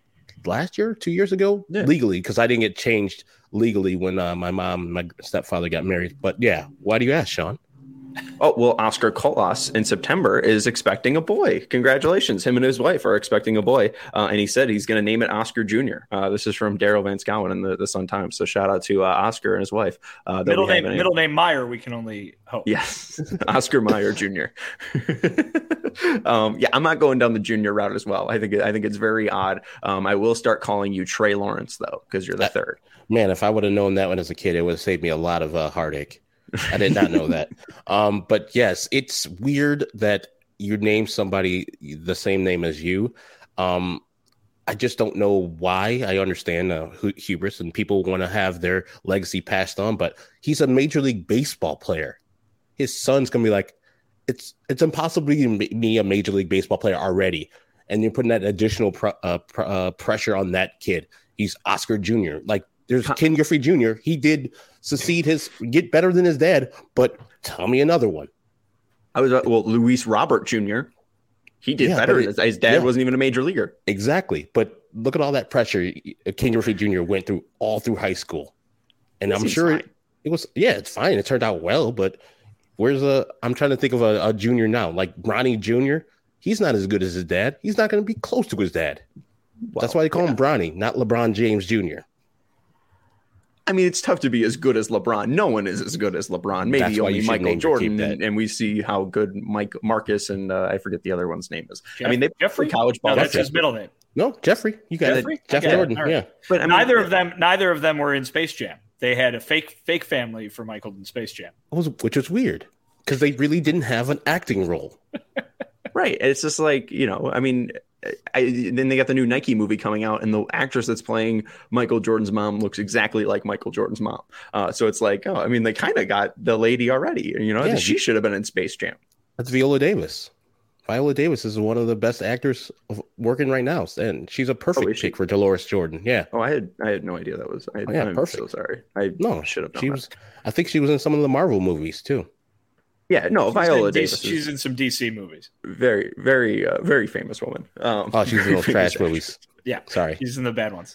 last year, two years ago, Yeah. legally, because I didn't get changed legally when uh, my mom and my stepfather got married. But yeah, why do you ask, Sean? Oh, well, Oscar Colas in September is expecting a boy. Congratulations. Him and his wife are expecting a boy. Uh, and he said he's going to name it Oscar Junior Uh, this is from Daryl Van Schouwen in the, the Sun Times. So shout out to uh, Oscar and his wife. Uh, that Middle we have name, in- middle name Meyer. We can only hope. Yes, Oscar Meyer Junior um, yeah, I'm not going down the junior route as well. I think I think it's very odd. Um, I will start calling you Trey Lawrence though, because you're the That- third. Man, if I would have known that one as a kid, it would have saved me a lot of uh, heartache. I did not know that. Um, but yes, it's weird that you name somebody the same name as you. Um, I just don't know why. I understand uh, hu- hubris and people want to have their legacy passed on, but he's a Major League Baseball player. His son's gonna be like, it's it's impossible to be a Major League Baseball player already, and you're putting that additional pr- uh, pr- uh, pressure on that kid. He's Oscar Junior Like, there's Ken Griffey Junior He did succeed his get better than his dad, but tell me another one. I was uh, well, Luis Robert Junior He did Yeah, better. but it- his, his dad yeah. wasn't even a major leaguer. Exactly. But look at all that pressure Ken Griffey Junior went through all through high school. And I'm Seems sure fine. it, it was, yeah, it's fine. It turned out well, but where's a, I'm trying to think of a, a junior now, like Bronny Junior He's not as good as his dad. He's not going to be close to his dad. Well, That's why they call yeah. him Bronny, not LeBron James Junior I mean, it's tough to be as good as LeBron. No one is as good as LeBron. Maybe That's why only you should Michael name your kid Jordan, that. and, and we see how good Mike Marcus and uh, I forget the other one's name is. I Jeff- mean, they Jeffrey? play college ball. No, that's Jeffrey. his middle name. No, Jeffrey. You got Jeffrey? it. Jeff Okay. Jordan. All right. Yeah. But I mean, neither of them, neither of them were in Space Jam. They had a fake, fake family for Michael in Space Jam. It was, which was weird because they really didn't have an acting role. Right. It's just like, you know, I mean, I, then they got the new Nike movie coming out, and the actress that's playing Michael Jordan's mom looks exactly like Michael Jordan's mom. Uh, so it's like, oh, I mean, they kind of got the lady already. You know, Yeah, she the- should have been in Space Jam. That's Viola Davis. Viola Davis is one of the best actors of- working right now, and she's a perfect Oh, is she? pick for Dolores Jordan. Yeah. Oh, I had I had no idea that was. I, Oh, yeah, I'm perfect. so sorry. I No, should have known. she that. was. I think she was in some of the Marvel movies too. Yeah, no, She's Viola in D- Davis She's is in some D C movies. very, very, uh, very famous woman. Um, Oh, she's in very those famous trash movies. Yeah. Sorry. She's in the bad ones. Yeah.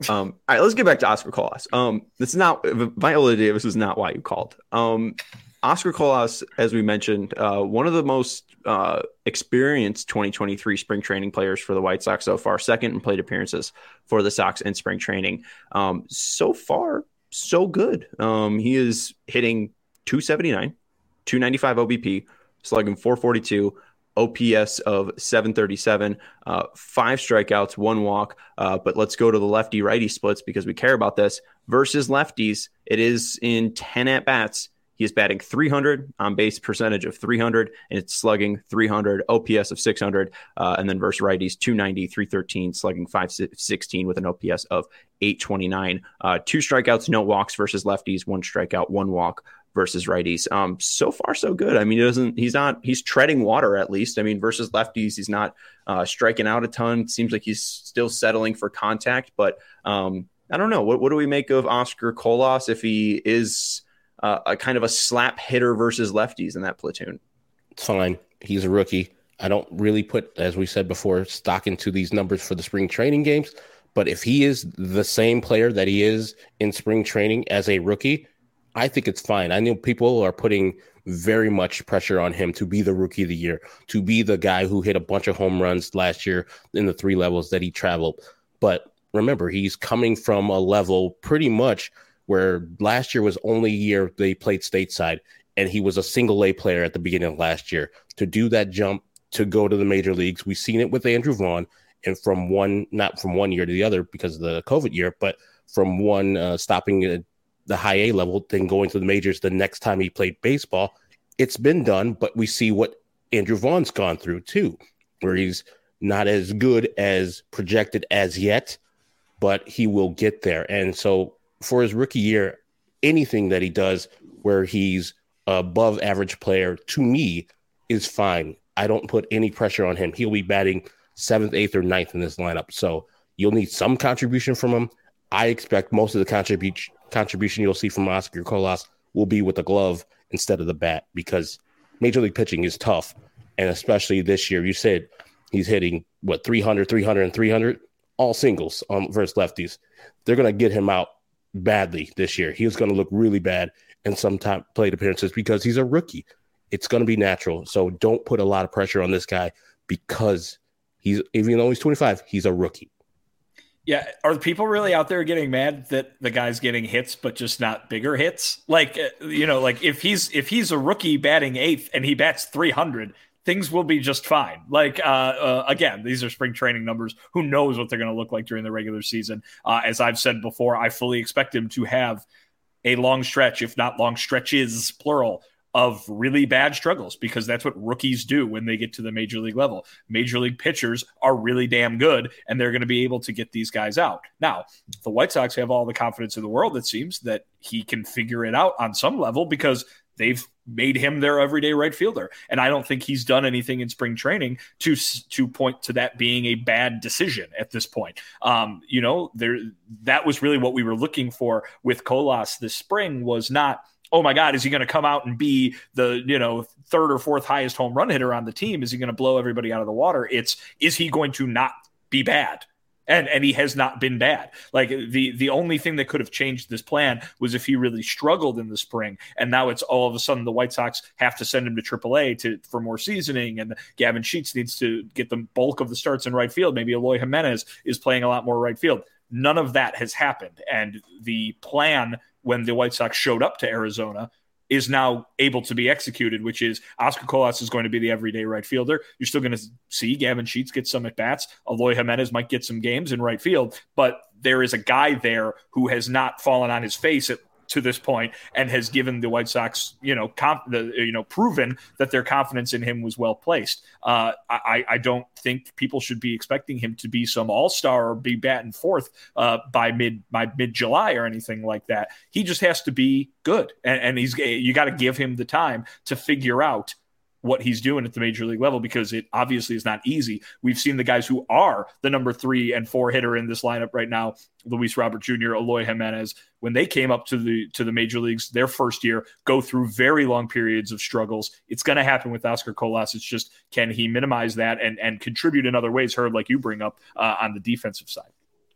Um, all right, let's get back to Oscar Colas. Um, this is not Viola Davis was not why you called. Um, Oscar Colas, as we mentioned, uh, one of the most uh, experienced twenty twenty-three spring training players for the White Sox so far, second in plate appearances for the Sox in spring training. Um, so far, so good. Um, he is hitting two seventy-nine, two ninety-five O B P, slugging four forty-two, O P S of seven thirty-seven, uh, five strikeouts, one walk. Uh, but let's go to the lefty righty splits because we care about this. Versus lefties, it is in ten at bats. He is batting three hundred, on base percentage of three hundred, and it's slugging three hundred, O P S of six hundred. Uh, and then versus righties, two ninety, three thirteen, slugging five sixteen with an O P S of eight twenty-nine. Uh, two strikeouts, no walks versus lefties, one strikeout, one walk versus righties. Um, so far, so good. I mean, he doesn't, he's not, he's treading water at least. I mean, versus lefties, he's not uh, striking out a ton. Seems like he's still settling for contact, but um, I don't know. What, what do we make of Oscar Colas if he is uh, a kind of a slap hitter versus lefties in that platoon? It's fine. He's a rookie. I don't really put, as we said before, stock into these numbers for the spring training games. But if he is the same player that he is in spring training as a rookie, I think it's fine. I know people are putting very much pressure on him to be the rookie of the year, to be the guy who hit a bunch of home runs last year in the three levels that he traveled. But remember, he's coming from a level pretty much where last year was only year they played stateside, and he was a single A player at the beginning of last year. To do that jump, to go to the major leagues, we've seen it with Andrew Vaughn, and from one, not from one year to the other because of the COVID year, but from one uh, stopping uh, the high A level, then going to the majors the next time he played baseball. It's been done, but we see what Andrew Vaughn's gone through too, where he's not as good as projected as yet, but he will get there. And so for his rookie year, anything that he does where he's above average player, to me, is fine. I don't put any pressure on him. He'll be batting seventh, eighth, or ninth in this lineup. So you'll need some contribution from him. I expect most of the contribution contribution you'll see from Oscar Colas will be with the glove instead of the bat, because major league pitching is tough. And especially this year, you said he's hitting what, three hundred, three hundred, and three hundred, all singles on versus lefties. They're going to get him out badly this year. He's going to look really bad in some time plate appearances because he's a rookie. It's going to be natural. So don't put a lot of pressure on this guy because he's, even though he's twenty-five, he's a rookie. Yeah. Are the people really out there getting mad that the guy's getting hits, but just not bigger hits? Like, you know, like if he's, if he's a rookie batting eighth and he bats three hundred, things will be just fine. Like, uh, uh, again, these are spring training numbers. Who knows what they're going to look like during the regular season? Uh, as I've said before, I fully expect him to have a long stretch, if not long stretches, plural, of really bad struggles, because that's what rookies do when they get to the major league level. Major league pitchers are really damn good, and they're going to be able to get these guys out. Now, the White Sox have all the confidence in the world, it seems, that he can figure it out on some level because they've made him their everyday right fielder. And I don't think he's done anything in spring training to to point to that being a bad decision at this point. Um, you know, there that was really what we were looking for with Colas this spring, was not, oh my God, is he going to come out and be the, you know, third or fourth highest home run hitter on the team? Is he going to blow everybody out of the water? It's, is he going to not be bad? And and he has not been bad. Like the, the only thing that could have changed this plan was if he really struggled in the spring. And now it's all of a sudden the White Sox have to send him to triple A to, for more seasoning. And Gavin Sheets needs to get the bulk of the starts in right field. Maybe Eloy Jimenez is playing a lot more right field. None of that has happened. And the plan when the White Sox showed up to Arizona is now able to be executed, which is Oscar Colas is going to be the everyday right fielder. You're still going to see Gavin Sheets get some at-bats. Eloy Jimenez might get some games in right field, but there is a guy there who has not fallen on his face at, to this point and has given the White Sox, you know, comp, the, you know, proven that their confidence in him was well placed. Uh, I, I don't think people should be expecting him to be some all-star or be batting fourth uh, by mid by mid-July or anything like that. He just has to be good, and, and he's you got to give him the time to figure out what he's doing at the major league level, because it obviously is not easy. We've seen the guys who are the number three and four hitter in this lineup right now, Luis Robert Junior, Eloy Jimenez, when they came up to the to the major leagues their first year, go through very long periods of struggles. It's going to happen with Oscar Colas. It's just, can he minimize that and and contribute in other ways, Herb, like you bring up uh, on the defensive side?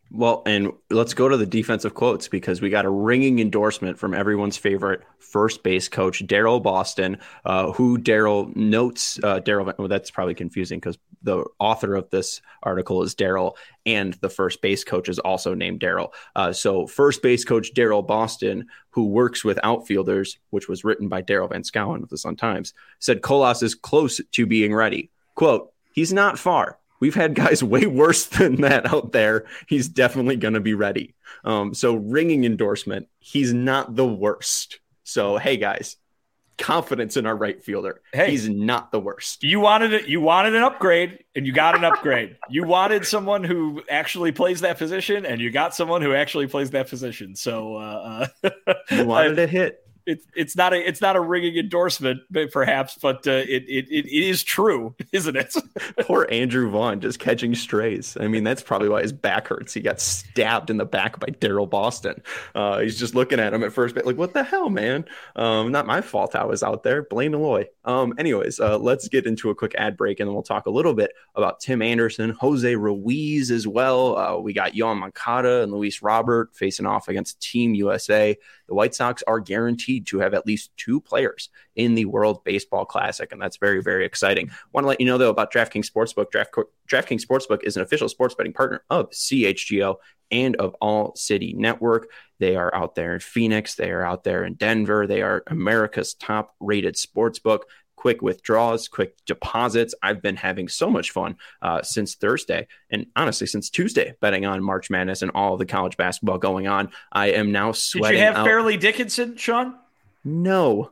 Well, and let's go to the defensive quotes because we got a ringing endorsement from everyone's favorite first base coach, Daryl Boston, uh, who Daryl notes. Uh, Daryl, well, that's probably confusing because the author of this article is Daryl, and the first base coach is also named Daryl. Uh, so, first base coach Daryl Boston, who works with outfielders, which was written by Daryl Van Schouwen of the Sun-Times, said Colas is close to being ready. Quote, he's not far. We've had guys way worse than that out there. He's definitely going to be ready. Um, so ringing endorsement. He's not the worst. So, hey, guys, confidence in our right fielder. Hey, he's not the worst. You wanted it. You wanted an upgrade, and you got an upgrade. You wanted someone who actually plays that position, and you got someone who actually plays that position. So uh, you wanted a hit. It's it's not a it's not a ringing endorsement, perhaps, but uh, it, it it is true, isn't it? Poor Andrew Vaughn just catching strays. I mean, that's probably why his back hurts. He got stabbed in the back by Daryl Boston. Uh, he's just looking at him at first, like, "What the hell, man? Um, not my fault. I was out there. Blame Eloy." Um, anyways, uh, let's get into a quick ad break, and then we'll talk a little bit about Tim Anderson, Jose Ruiz as well. Uh, we got Yoan Moncada and Luis Robert facing off against Team U S A. The White Sox are guaranteed to have at least two players in the World Baseball Classic, and that's very, very exciting. Want to let you know, though, about DraftKings Sportsbook. Draft, DraftKings Sportsbook is an official sports betting partner of C H G O and of All City Network. They are out there in Phoenix. They are out there in Denver. They are America's top-rated sportsbook. Quick withdrawals, quick deposits. I've been having so much fun uh, since Thursday, and honestly, since Tuesday, betting on March Madness and all the college basketball going on. I am now sweating. Did you have out. Fairleigh Dickinson, Sean? No.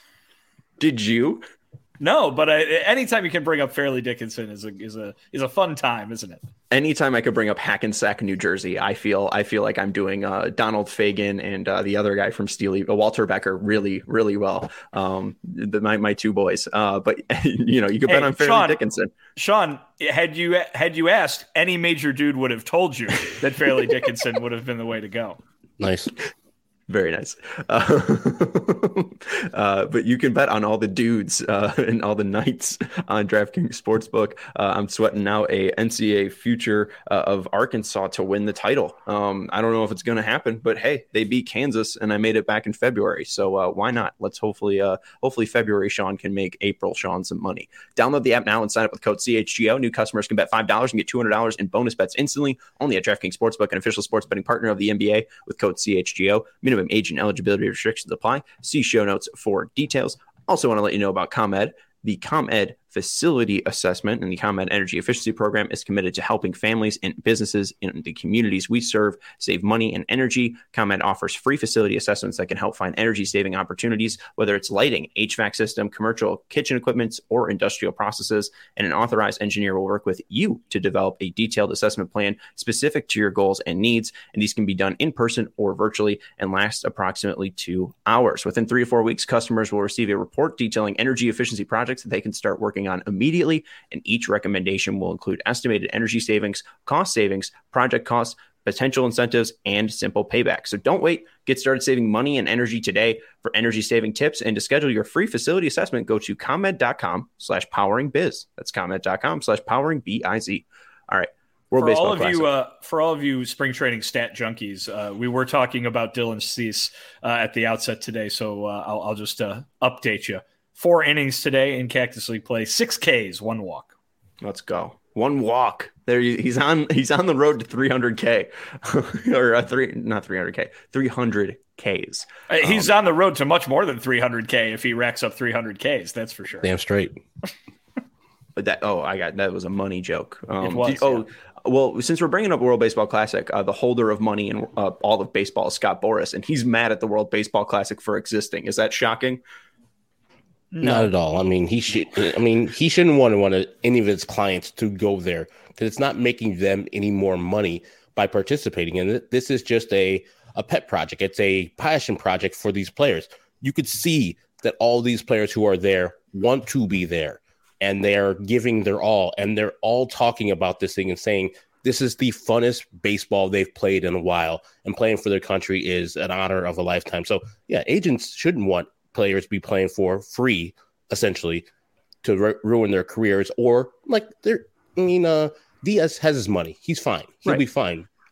Did you? No, but I, anytime you can bring up Fairleigh Dickinson is a is a is a fun time, isn't it? Anytime I could bring up Hackensack, New Jersey, I feel I feel like I'm doing uh, Donald Fagen and uh, the other guy from Steely, uh, Walter Becker, really, really well. Um, the, my my two boys. Uh, but you know, you could hey, bet on Fairleigh Sean, Dickinson. Sean, had you had you asked, any major dude would have told you that Fairleigh Dickinson would have been the way to go. Nice. Very nice. Uh, uh, but you can bet on all the dudes uh, and all the nights on DraftKings Sportsbook. Uh, I'm sweating now a N C A A future uh, of Arkansas to win the title. Um, I don't know if it's going to happen, but hey, they beat Kansas and I made it back in February. So uh, why not? Let's hopefully, uh, hopefully February Sean can make April Sean some money. Download the app now and sign up with code C H G O. New customers can bet five dollars and get two hundred dollars in bonus bets instantly. Only at DraftKings Sportsbook, an official sports betting partner of the N B A, with code C H G O. Minimum age and eligibility restrictions apply. See show notes for details. Also want to let you know about ComEd. The ComEd Facility Assessment and the ComEd Energy Efficiency Program is committed to helping families and businesses in the communities we serve save money and energy. ComEd offers free facility assessments that can help find energy-saving opportunities, whether it's lighting, H V A C system, commercial kitchen equipment, or industrial processes. And an authorized engineer will work with you to develop a detailed assessment plan specific to your goals and needs. And these can be done in person or virtually and last approximately two hours. Within three to four weeks, customers will receive a report detailing energy efficiency projects that they can start working on immediately, and each recommendation will include estimated energy savings, cost savings, project costs, potential incentives, and simple payback. So don't wait. Get started saving money and energy today. For energy saving tips and to schedule your free facility assessment, go to ComEd.com slash powering biz. That's ComEd.com slash powering B I Z. All right. World for Baseball all of Classic. you, uh, for all of you spring training stat junkies, uh, we were talking about Dylan Cease uh, at the outset today, so uh, I'll, I'll just uh, update you. Four innings today in Cactus League play, six Ks, one walk. Let's go. One walk. There, he's on. He's on the road to three hundred K, or uh, three, not three hundred K, three hundred Ks. Uh, he's um, on the road to much more than three hundred K if he racks up three hundred Ks. That's for sure. Damn straight. But that. Oh, I got that was a money joke. Um, it was. Did, oh. Yeah. Well, since we're bringing up World Baseball Classic, uh, the holder of money in uh, all of baseball is Scott Boras, and he's mad at the World Baseball Classic for existing. Is that shocking? No. Not at all. I mean, he should. I mean, he shouldn't want to want to, any of his clients to go there because it's not making them any more money by participating in it. This is just a a pet project. It's a passion project for these players. You could see that all these players who are there want to be there, and they are giving their all, and they're all talking about this thing and saying this is the funnest baseball they've played in a while, and playing for their country is an honor of a lifetime. So, yeah, agents shouldn't want players be playing for free, essentially, to ru- ruin their careers. Or like they're, I mean, uh, Diaz has his money; he's fine. He'll right. be fine.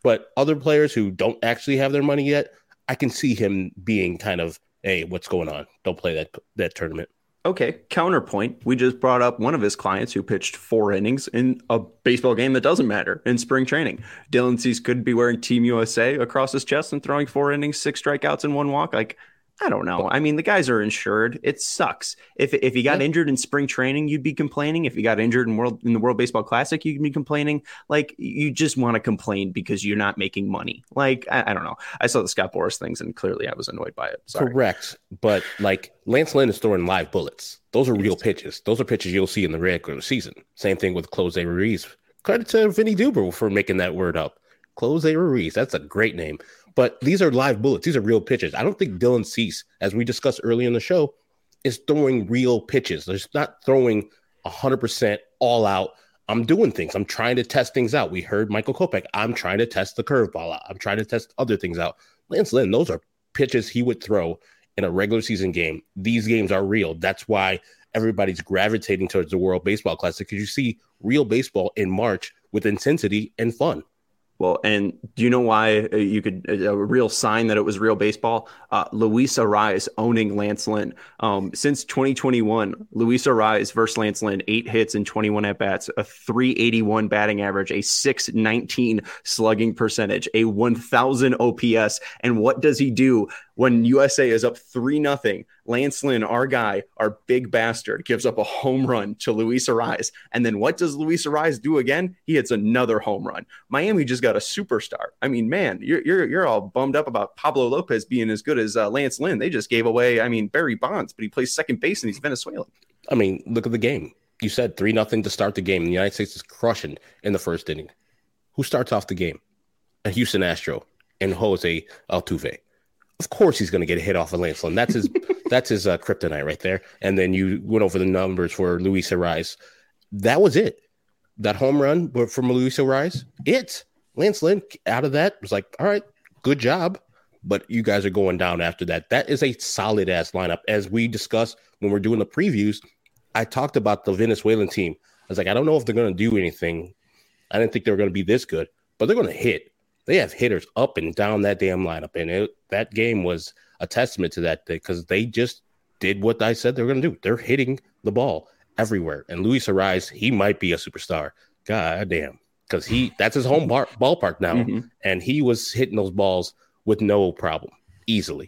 But other players who don't actually have their money yet, I can see him being kind of, hey, what's going on? Don't play that that tournament. Okay, counterpoint. We just brought up one of his clients who pitched four innings in a baseball game that doesn't matter in spring training. Dylan Cease could be wearing Team U S A across his chest and throwing four innings, six strikeouts, and one walk. Like, I don't know. I mean, the guys are insured. It sucks. If if he got yeah. injured in spring training, you'd be complaining. If he got injured in world in the World Baseball Classic, you'd be complaining. Like, you just want to complain because you're not making money. Like, I, I don't know. I saw the Scott Boras things, and clearly I was annoyed by it. Sorry. Correct. But, like, Lance Lynn is throwing live bullets. Those are real pitches. Those are pitches you'll see in the regular season. Same thing with Close Ruiz. Credit to Vinny Duber for making that word up. Close Ruiz. That's a great name. But these are live bullets. These are real pitches. I don't think Dylan Cease, as we discussed earlier in the show, is throwing real pitches. There's not throwing one hundred percent all out. I'm doing things. I'm trying to test things out. We heard Michael Kopech. I'm trying to test the curveball out. I'm trying to test other things out. Lance Lynn, those are pitches he would throw in a regular season game. These games are real. That's why everybody's gravitating towards the World Baseball Classic, because you see real baseball in March with intensity and fun. Well, and do you know why you could a real sign that it was real baseball? Uh, Luis Arraez owning Lance Lynn. Um, since twenty twenty-one, Luis Arraez versus Lance Lynn, eight hits and twenty-one at bats, a three eighty-one batting average, a six nineteen slugging percentage, a one thousand O P S. And what does he do when U S A is up three nothing? Lance Lynn, our guy, our big bastard, gives up a home run to Luis Arraez. And then what does Luis Arraez do again? He hits another home run. Miami just got a superstar. I mean, man, you're you're you're all bummed up about Pablo Lopez being as good as uh, Lance Lynn. They just gave away, I mean, Barry Bonds, but he plays second base and he's Venezuelan. I mean, look at the game. You said three nothing to start the game. The United States is crushing in the first inning. Who starts off the game? A Houston Astro and Jose Altuve. Of course he's going to get a hit off of Lance Lynn. That's his that's his uh, kryptonite right there. And then you went over the numbers for Luis Arraez. That was it. That home run from Luis Arraez, it. Lance Lynn out of that was like, all right, good job. But you guys are going down after that. That is a solid-ass lineup. As we discussed when we're doing the previews, I talked about the Venezuelan team. I was like, I don't know if they're going to do anything. I didn't think they were going to be this good, but they're going to hit. They have hitters up and down that damn lineup. And it, that game was a testament to that because they just did what I said they were going to do. They're hitting the ball everywhere. And Luis Arraez, he might be a superstar. God damn. Because he that's his home bar, ballpark now. Mm-hmm. And he was hitting those balls with no problem, easily.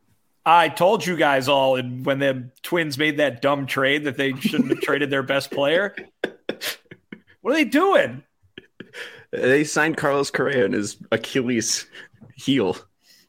I told you guys all when the Twins made that dumb trade that they shouldn't have traded their best player. What are they doing? They signed Carlos Correa in his Achilles heel.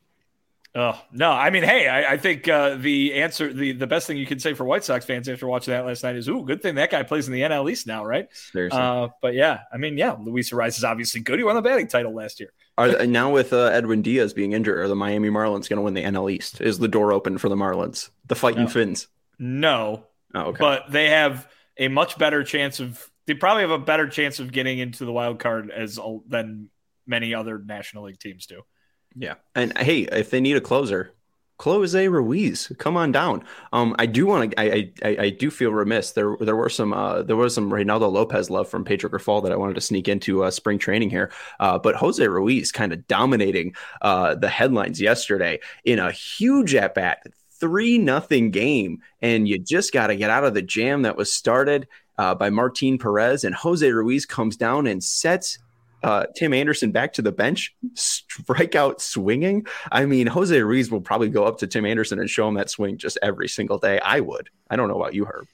Oh, no. I mean, hey, I, I think uh, the answer, the, the best thing you can say for White Sox fans after watching that last night is, ooh, good thing that guy plays in the N L East now, right? Seriously. Uh, but yeah, I mean, yeah, Luis Arraez is obviously good. He won the batting title last year. Are now with uh, Edwin Diaz being injured, are the Miami Marlins going to win the N L East? Is the door open for the Marlins? The Fighting no. Finns? No. Oh, okay. But they have a much better chance of They probably have a better chance of getting into the wild card as than many other National League teams do. Yeah. And hey, if they need a closer, Close Ruiz, come on down. Um, I do want to. I, I I do feel remiss. There there were some uh, there was some Reynaldo Lopez love from Pedro Grifol that I wanted to sneak into uh, spring training here. Uh, but Jose Ruiz kind of dominating uh, the headlines yesterday in a huge at bat, three nothing game, and you just got to get out of the jam that was started uh, by Martin Perez, and Jose Ruiz comes down and sets Uh, Tim Anderson back to the bench, strikeout swinging. I mean, Jose Ruiz will probably go up to Tim Anderson and show him that swing just every single day. I would. I don't know about you, Herb.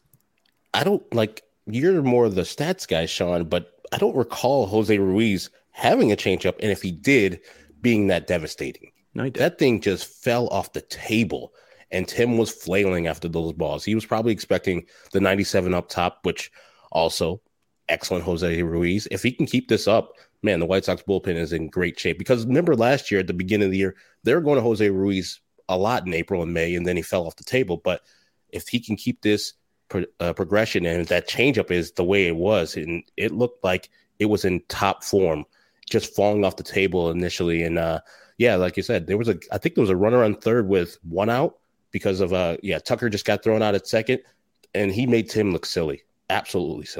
I don't like you're more of the stats guy, Sean, but I don't recall Jose Ruiz having a changeup, and if he did, being that devastating. No, he did. That thing just fell off the table, and Tim was flailing after those balls. He was probably expecting the ninety-seven up top, which also. Excellent Jose Ruiz. If he can keep this up, man, the White Sox bullpen is in great shape. Because remember last year at the beginning of the year, they were going to Jose Ruiz a lot in April and May, and then he fell off the table. But if he can keep this pro- uh, progression and that changeup is the way it was, and it looked like it was in top form, just falling off the table initially. And uh, yeah, like you said, there was a, I think there was a runner on third with one out because of, uh, yeah, Tucker just got thrown out at second, and he made Tim look silly, absolutely silly.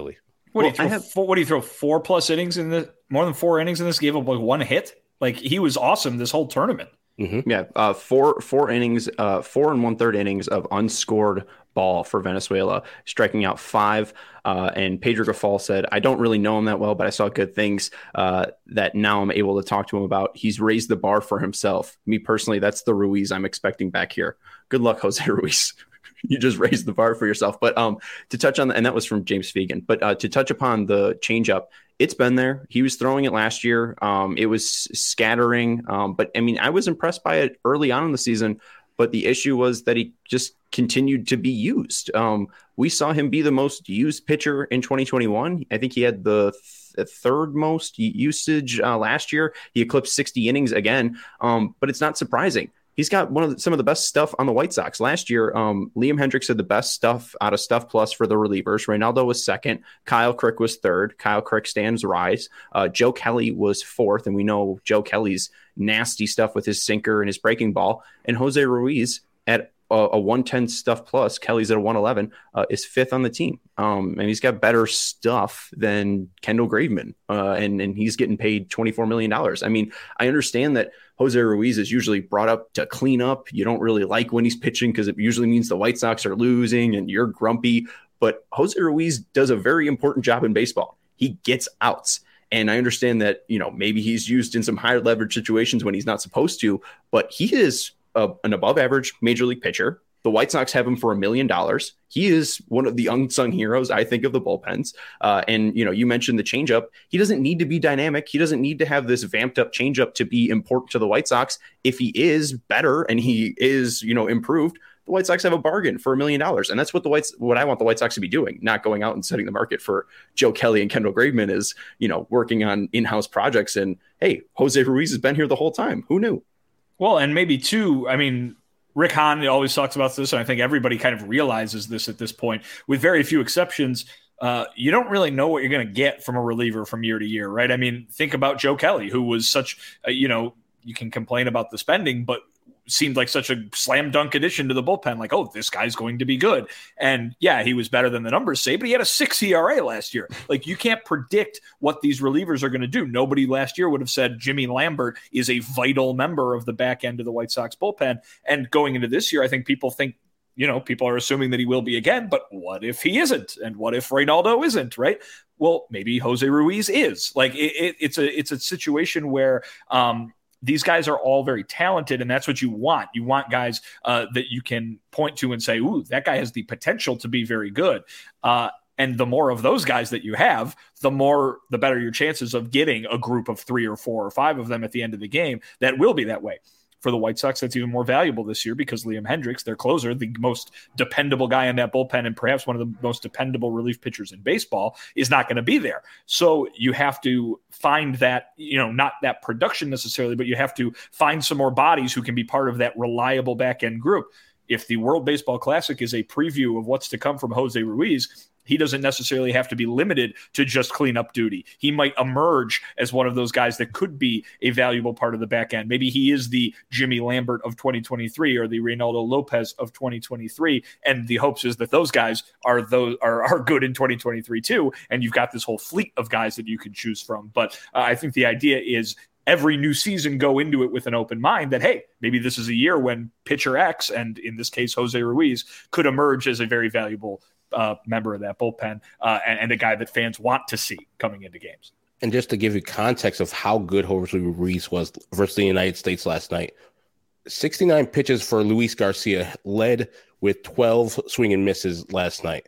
What, well, do you throw, have, four, what do you throw? Four plus innings in the more than four innings in this? Gave up like one hit. Like he was awesome this whole tournament. Mm-hmm. Yeah, uh, four four innings, uh, four and one third innings of unscored ball for Venezuela, striking out five. Uh, and Pedro Gafal said, "I don't really know him that well, but I saw good things uh, that now I'm able to talk to him about. He's raised the bar for himself. Me personally, that's the Ruiz I'm expecting back here. Good luck, Jose Ruiz." You just raised the bar for yourself. But um, to touch on, the, and that was from James Fegan, but uh, to touch upon the changeup, it's been there. He was throwing it last year. Um, it was scattering. Um, but I mean, I was impressed by it early on in the season, but the issue was that he just continued to be used. Um, we saw him be the most used pitcher in twenty twenty-one. I think he had the th- third most usage uh, last year. He eclipsed sixty innings again. Um, but it's not surprising. He's got one of the, some of the best stuff on the White Sox. Last year, um, Liam Hendriks had the best stuff out of Stuff Plus for the relievers. Reynaldo was second. Kyle Crick was third. Kyle Crick stands rise. Uh, Joe Kelly was fourth, and we know Joe Kelly's nasty stuff with his sinker and his breaking ball. And Jose Ruiz at a, a one ten Stuff Plus, Kelly's at a one eleven, uh, is fifth on the team. Um, and he's got better stuff than Kendall Graveman, uh, and, and he's getting paid twenty-four million dollars. I mean, I understand that Jose Ruiz is usually brought up to clean up. You don't really like when he's pitching because it usually means the White Sox are losing and you're grumpy. But Jose Ruiz does a very important job in baseball. He gets outs. And I understand that, you know, maybe he's used in some higher leverage situations when he's not supposed to, but he is a, an above average major league pitcher. The White Sox have him for a million dollars. He is one of the unsung heroes, I think, of the bullpens. Uh, and, you know, you mentioned the changeup. He doesn't need to be dynamic. He doesn't need to have this vamped up changeup to be important to the White Sox. If he is better and he is, you know, improved, the White Sox have a bargain for a million dollars. And that's what the Whites, what I want the White Sox to be doing, not going out and setting the market for Joe Kelly and Kendall Graveman is, you know, working on in-house projects. And hey, Jose Ruiz has been here the whole time. Who knew? Well, and maybe too, I mean, Rick Hahn always talks about this, and I think everybody kind of realizes this at this point, with very few exceptions. Uh, you don't really know what you're going to get from a reliever from year to year, right? I mean, think about Joe Kelly, who was such, uh, you know, you can complain about the spending, but seemed like such a slam dunk addition to the bullpen. Like, oh, this guy's going to be good. And yeah, he was better than the numbers say, but he had a six E R A last year. Like, you can't predict what these relievers are going to do. Nobody last year would have said Jimmy Lambert is a vital member of the back end of the White Sox bullpen. And going into this year, I think people think, you know, people are assuming that he will be again, but what if he isn't? And what if Reynaldo isn't, right? Well, maybe Jose Ruiz is. Like, it, it, it's a, it's a situation where, um, these guys are all very talented, and that's what you want. You want guys uh, that you can point to and say, ooh, that guy has the potential to be very good. Uh, and the more of those guys that you have, the more, the better your chances of getting a group of three or four or five of them at the end of the game that will be that way. For the White Sox, that's even more valuable this year because Liam Hendriks, their closer, the most dependable guy in that bullpen and perhaps one of the most dependable relief pitchers in baseball, is not going to be there. So you have to find that, you know, not that production necessarily, but you have to find some more bodies who can be part of that reliable back end group. If the World Baseball Classic is a preview of what's to come from Jose Ruiz, he doesn't necessarily have to be limited to just cleanup duty. He might emerge as one of those guys that could be a valuable part of the back end. Maybe he is the Jimmy Lambert of twenty twenty-three or the Reynaldo Lopez of twenty twenty-three. And the hopes is that those guys are those are, are good in twenty twenty-three too. And you've got this whole fleet of guys that you can choose from. But uh, I think the idea is every new season go into it with an open mind that, hey, maybe this is a year when pitcher X, and in this case, Jose Ruiz, could emerge as a very valuable Uh, member of that bullpen uh, and, and a guy that fans want to see coming into games. And just to give you context of how good Jose Ruiz was versus the United States last night, sixty-nine pitches for Luis Garcia, led with twelve swing and misses last night.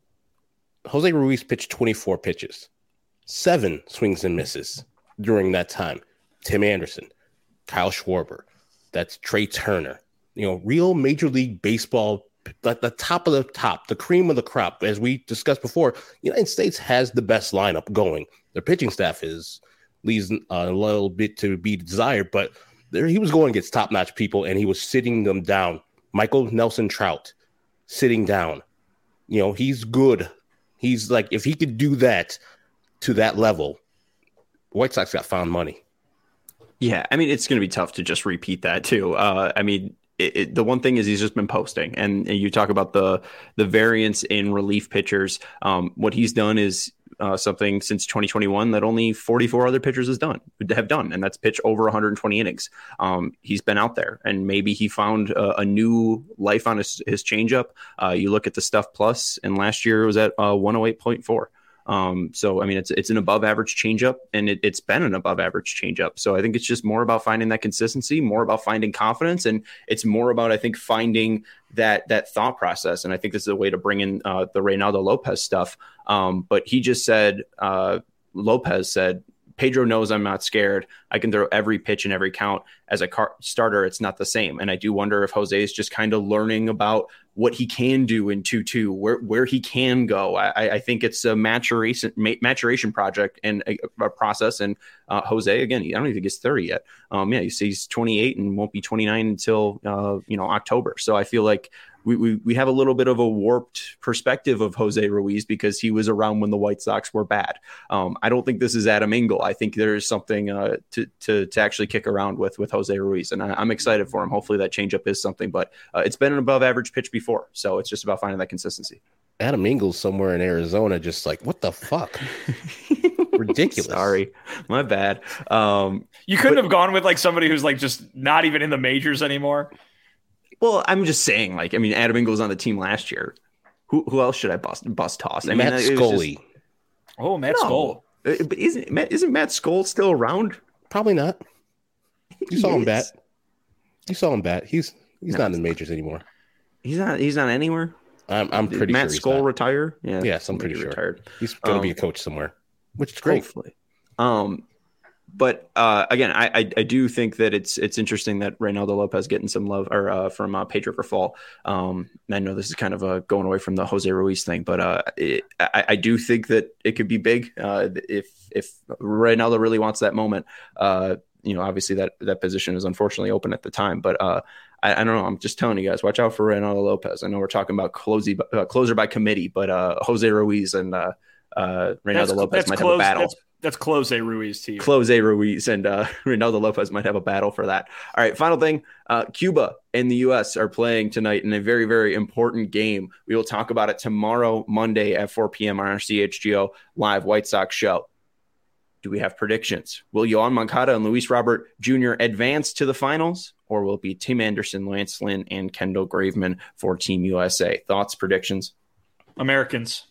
Jose Ruiz pitched twenty-four pitches, seven swings and misses during that time. Tim Anderson, Kyle Schwarber, that's Trey Turner, you know, real Major League Baseball, the, the top of the top, the cream of the crop. As we discussed before, the United States has the best lineup going. Their pitching staff is leaves a little bit to be desired, but there he was going against top-notch people, and he was sitting them down. Michael Nelson Trout, sitting down. You know, he's good. He's like, if he could do that to that level, White Sox got found money. Yeah, I mean, it's going to be tough to just repeat that, too. Uh, I mean, It, it, the one thing is he's just been posting, and, and you talk about the the variance in relief pitchers. Um, what he's done is uh, something since twenty twenty-one that only forty-four other pitchers has done have done, and that's pitch over one hundred twenty innings. Um, he's been out there, and maybe he found a, a new life on his, his changeup. Uh, you look at the Stuff Plus, and last year it was at uh, one oh eight point four. Um, so, I mean, it's it's an above average changeup, and it, it's been an above average changeup. So I think it's just more about finding that consistency, more about finding confidence, and it's more about, I think, finding that that thought process. And I think this is a way to bring in uh, the Reynaldo Lopez stuff. Um, but he just said, uh, Lopez said, Pedro knows I'm not scared. I can throw every pitch and every count. As a car- starter, it's not the same. And I do wonder if Jose is just kind of learning about what he can do in two two, where where he can go. I, I think it's a maturation maturation project and a, a process. And uh, Jose, again, I don't even think he's thirty yet. Um, yeah, he's, he's twenty-eight and won't be twenty-nine until uh, you know October. So I feel like we, we we have a little bit of a warped perspective of Jose Ruiz because he was around when the White Sox were bad. Um, I don't think this is Adam Engel. I think there is something uh, to, to to actually kick around with with Jose Ruiz, and I, I'm excited for him. Hopefully that changeup is something, but uh, it's been an above average pitch before, so it's just about finding that consistency. Adam Engel's somewhere in Arizona, just like, what the fuck? Ridiculous. Sorry, my bad. Um, you couldn't but, have gone with like somebody who's like just not even in the majors anymore. Well, I'm just saying, like, I mean, Adam Engel was on the team last year. Who who else should I bust bust toss? I Matt mean, Scully. Just, oh, Matt no. Scully. But isn't isn't Matt Scully still around? Probably not. You He saw him is. bat. You saw him bat. He's he's No, not in the majors anymore. He's not. He's not anywhere. I'm I'm Did pretty Matt sure he's Skull not. retire? Yeah, Yes, I'm pretty maybe sure. retired. He's going to Um, be a coach somewhere, which is great. Hopefully. Um, but uh, again, I, I I do think that it's it's interesting that Reynaldo Lopez getting some love or uh, from uh, Pedro Grifol. Um, I know this is kind of a going away from the Jose Ruiz thing, but uh, it, I, I do think that it could be big uh, if if Reynaldo really wants that moment. Uh, you know, obviously that that position is unfortunately open at the time, but uh, I, I don't know. I'm just telling you guys, watch out for Reynaldo Lopez. I know we're talking about closey, uh, closer by committee, but uh, Jose Ruiz and uh, uh, Reynaldo That's- Lopez that's might close- have a battle. That's, that's Close Ruiz to you. Close Ruiz and uh, Reynaldo Lopez might have a battle for that. All right, final thing. Uh, Cuba and the U S are playing tonight in a very, very important game. We will talk about it tomorrow, Monday at four p.m. on our C H G O Live White Sox show. Do we have predictions? Will Yohan Moncada and Luis Robert Junior advance to the finals, or will it be Tim Anderson, Lance Lynn, and Kendall Graveman for Team U S A? Thoughts, predictions? Americans.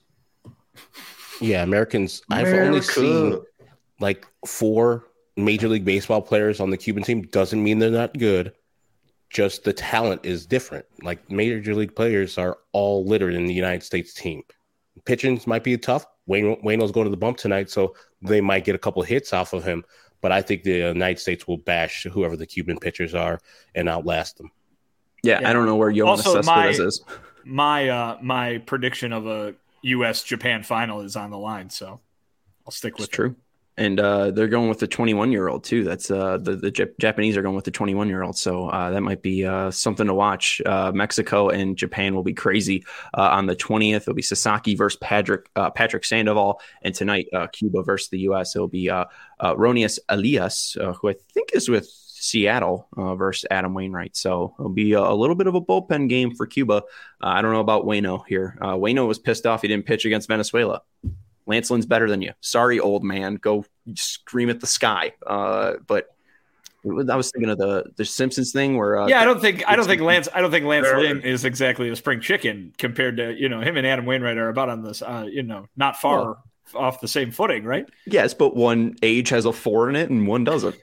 Yeah, Americans. I've only America. seen like four Major League Baseball players on the Cuban team. Doesn't mean they're not good. Just the talent is different. Like Major League players are all littered in the United States team. Pitching might be tough. Wayne Wayno's going to the bump tonight, so they might get a couple hits off of him. But I think the United States will bash whoever the Cuban pitchers are and outlast them. Yeah, Yeah. I don't know where Yohan Also, my- Cespedes is. My uh, my prediction of a U S Japan final is on the line, so I'll stick with It's true. And uh, they're going with the twenty-one-year-old, too. That's uh, the, the Jap- Japanese are going with the twenty-one-year-old. So uh, that might be uh, something to watch. Uh, Mexico and Japan will be crazy. Uh, on the twentieth, it'll be Sasaki versus Patrick, uh, Patrick Sandoval. And tonight, uh, Cuba versus the U S. It'll be uh, uh, Ronius Elias, uh, who I think is with Seattle uh, versus Adam Wainwright. So it'll be a, a little bit of a bullpen game for Cuba. Uh, I don't know about Wayno here. Uh, Wayno was pissed off he didn't pitch against Venezuela. Lance Lynn's better than you. Sorry, old man. Go scream at the sky. Uh, but I was thinking of the the Simpsons thing where uh, yeah, I don't think I don't think Lance I don't think Lance There- Lynn is exactly a spring chicken compared to you know him and Adam Wainwright are about on this uh, you know not far Well- off the same footing, right? yes, but one age has a four in it and one doesn't.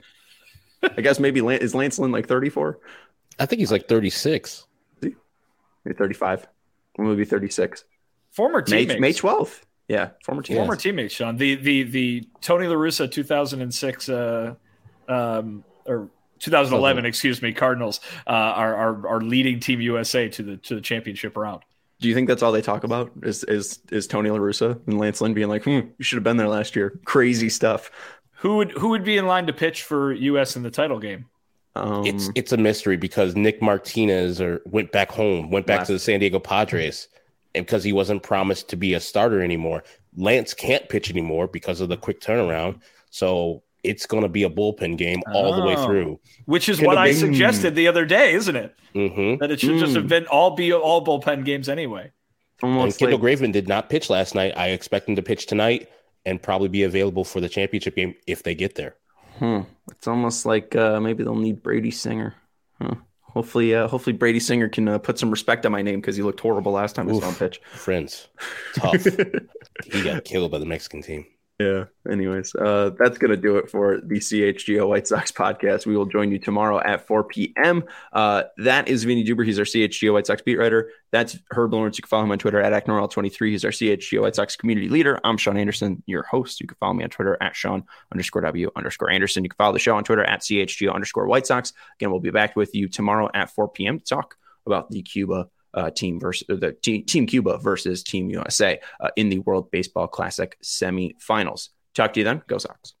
I guess maybe Lan- is Lance Lynn like thirty-four? I think he's like thirty-six. Maybe thirty-five. When will be thirty-six? Former May teammates, May twelfth. Yeah, former teammates. former teammates, Sean. The the the Tony La Russa two thousand six uh, um, or two thousand eleven, excuse me, Cardinals uh, are, are are leading Team U S A to the to the championship round. Do you think that's all they talk about? Is is is Tony La Russa and Lance Lynn being like, hmm, you should have been there last year? Crazy stuff. Who would who would be in line to pitch for U S in the title game? Um, It's it's a mystery because Nick Martinez or went back home, went back Left. to the San Diego Padres, and because he wasn't promised to be a starter anymore. Lance can't pitch anymore because of the quick turnaround. So it's going to be a bullpen game all the way Oh. through. Which is Could what have I been- suggested the other day, isn't it? Mm-hmm. That it should just Mm. have been all be all bullpen games anyway. And almost Kendall like, Graveman did not pitch last night. I expect him to pitch tonight. and probably be available for the championship game if they get there. Hmm. It's almost like uh, maybe they'll need Brady Singer. Huh. Hopefully, uh, hopefully Brady Singer can uh, put some respect on my name because he looked horrible last time I saw him pitch. Friends, tough. He got killed by the Mexican team. Yeah. Anyways, uh, that's going to do it for the C H G O White Sox podcast. We will join you tomorrow at four p.m. Uh, that is Vinny Duber. He's our C H G O White Sox beat writer. That's Herb Lawrence. You can follow him on Twitter at Acknorwell twenty-three. He's our C H G O White Sox community leader. I'm Sean Anderson, your host. You can follow me on Twitter at Sean underscore W underscore Anderson. You can follow the show on Twitter at C H G O underscore White Sox. Again, we'll be back with you tomorrow at four p.m. to talk about the Cuba Uh, team versus the team, team Cuba versus Team U S A uh, in the World Baseball Classic semifinals. Talk to you then. Go Sox.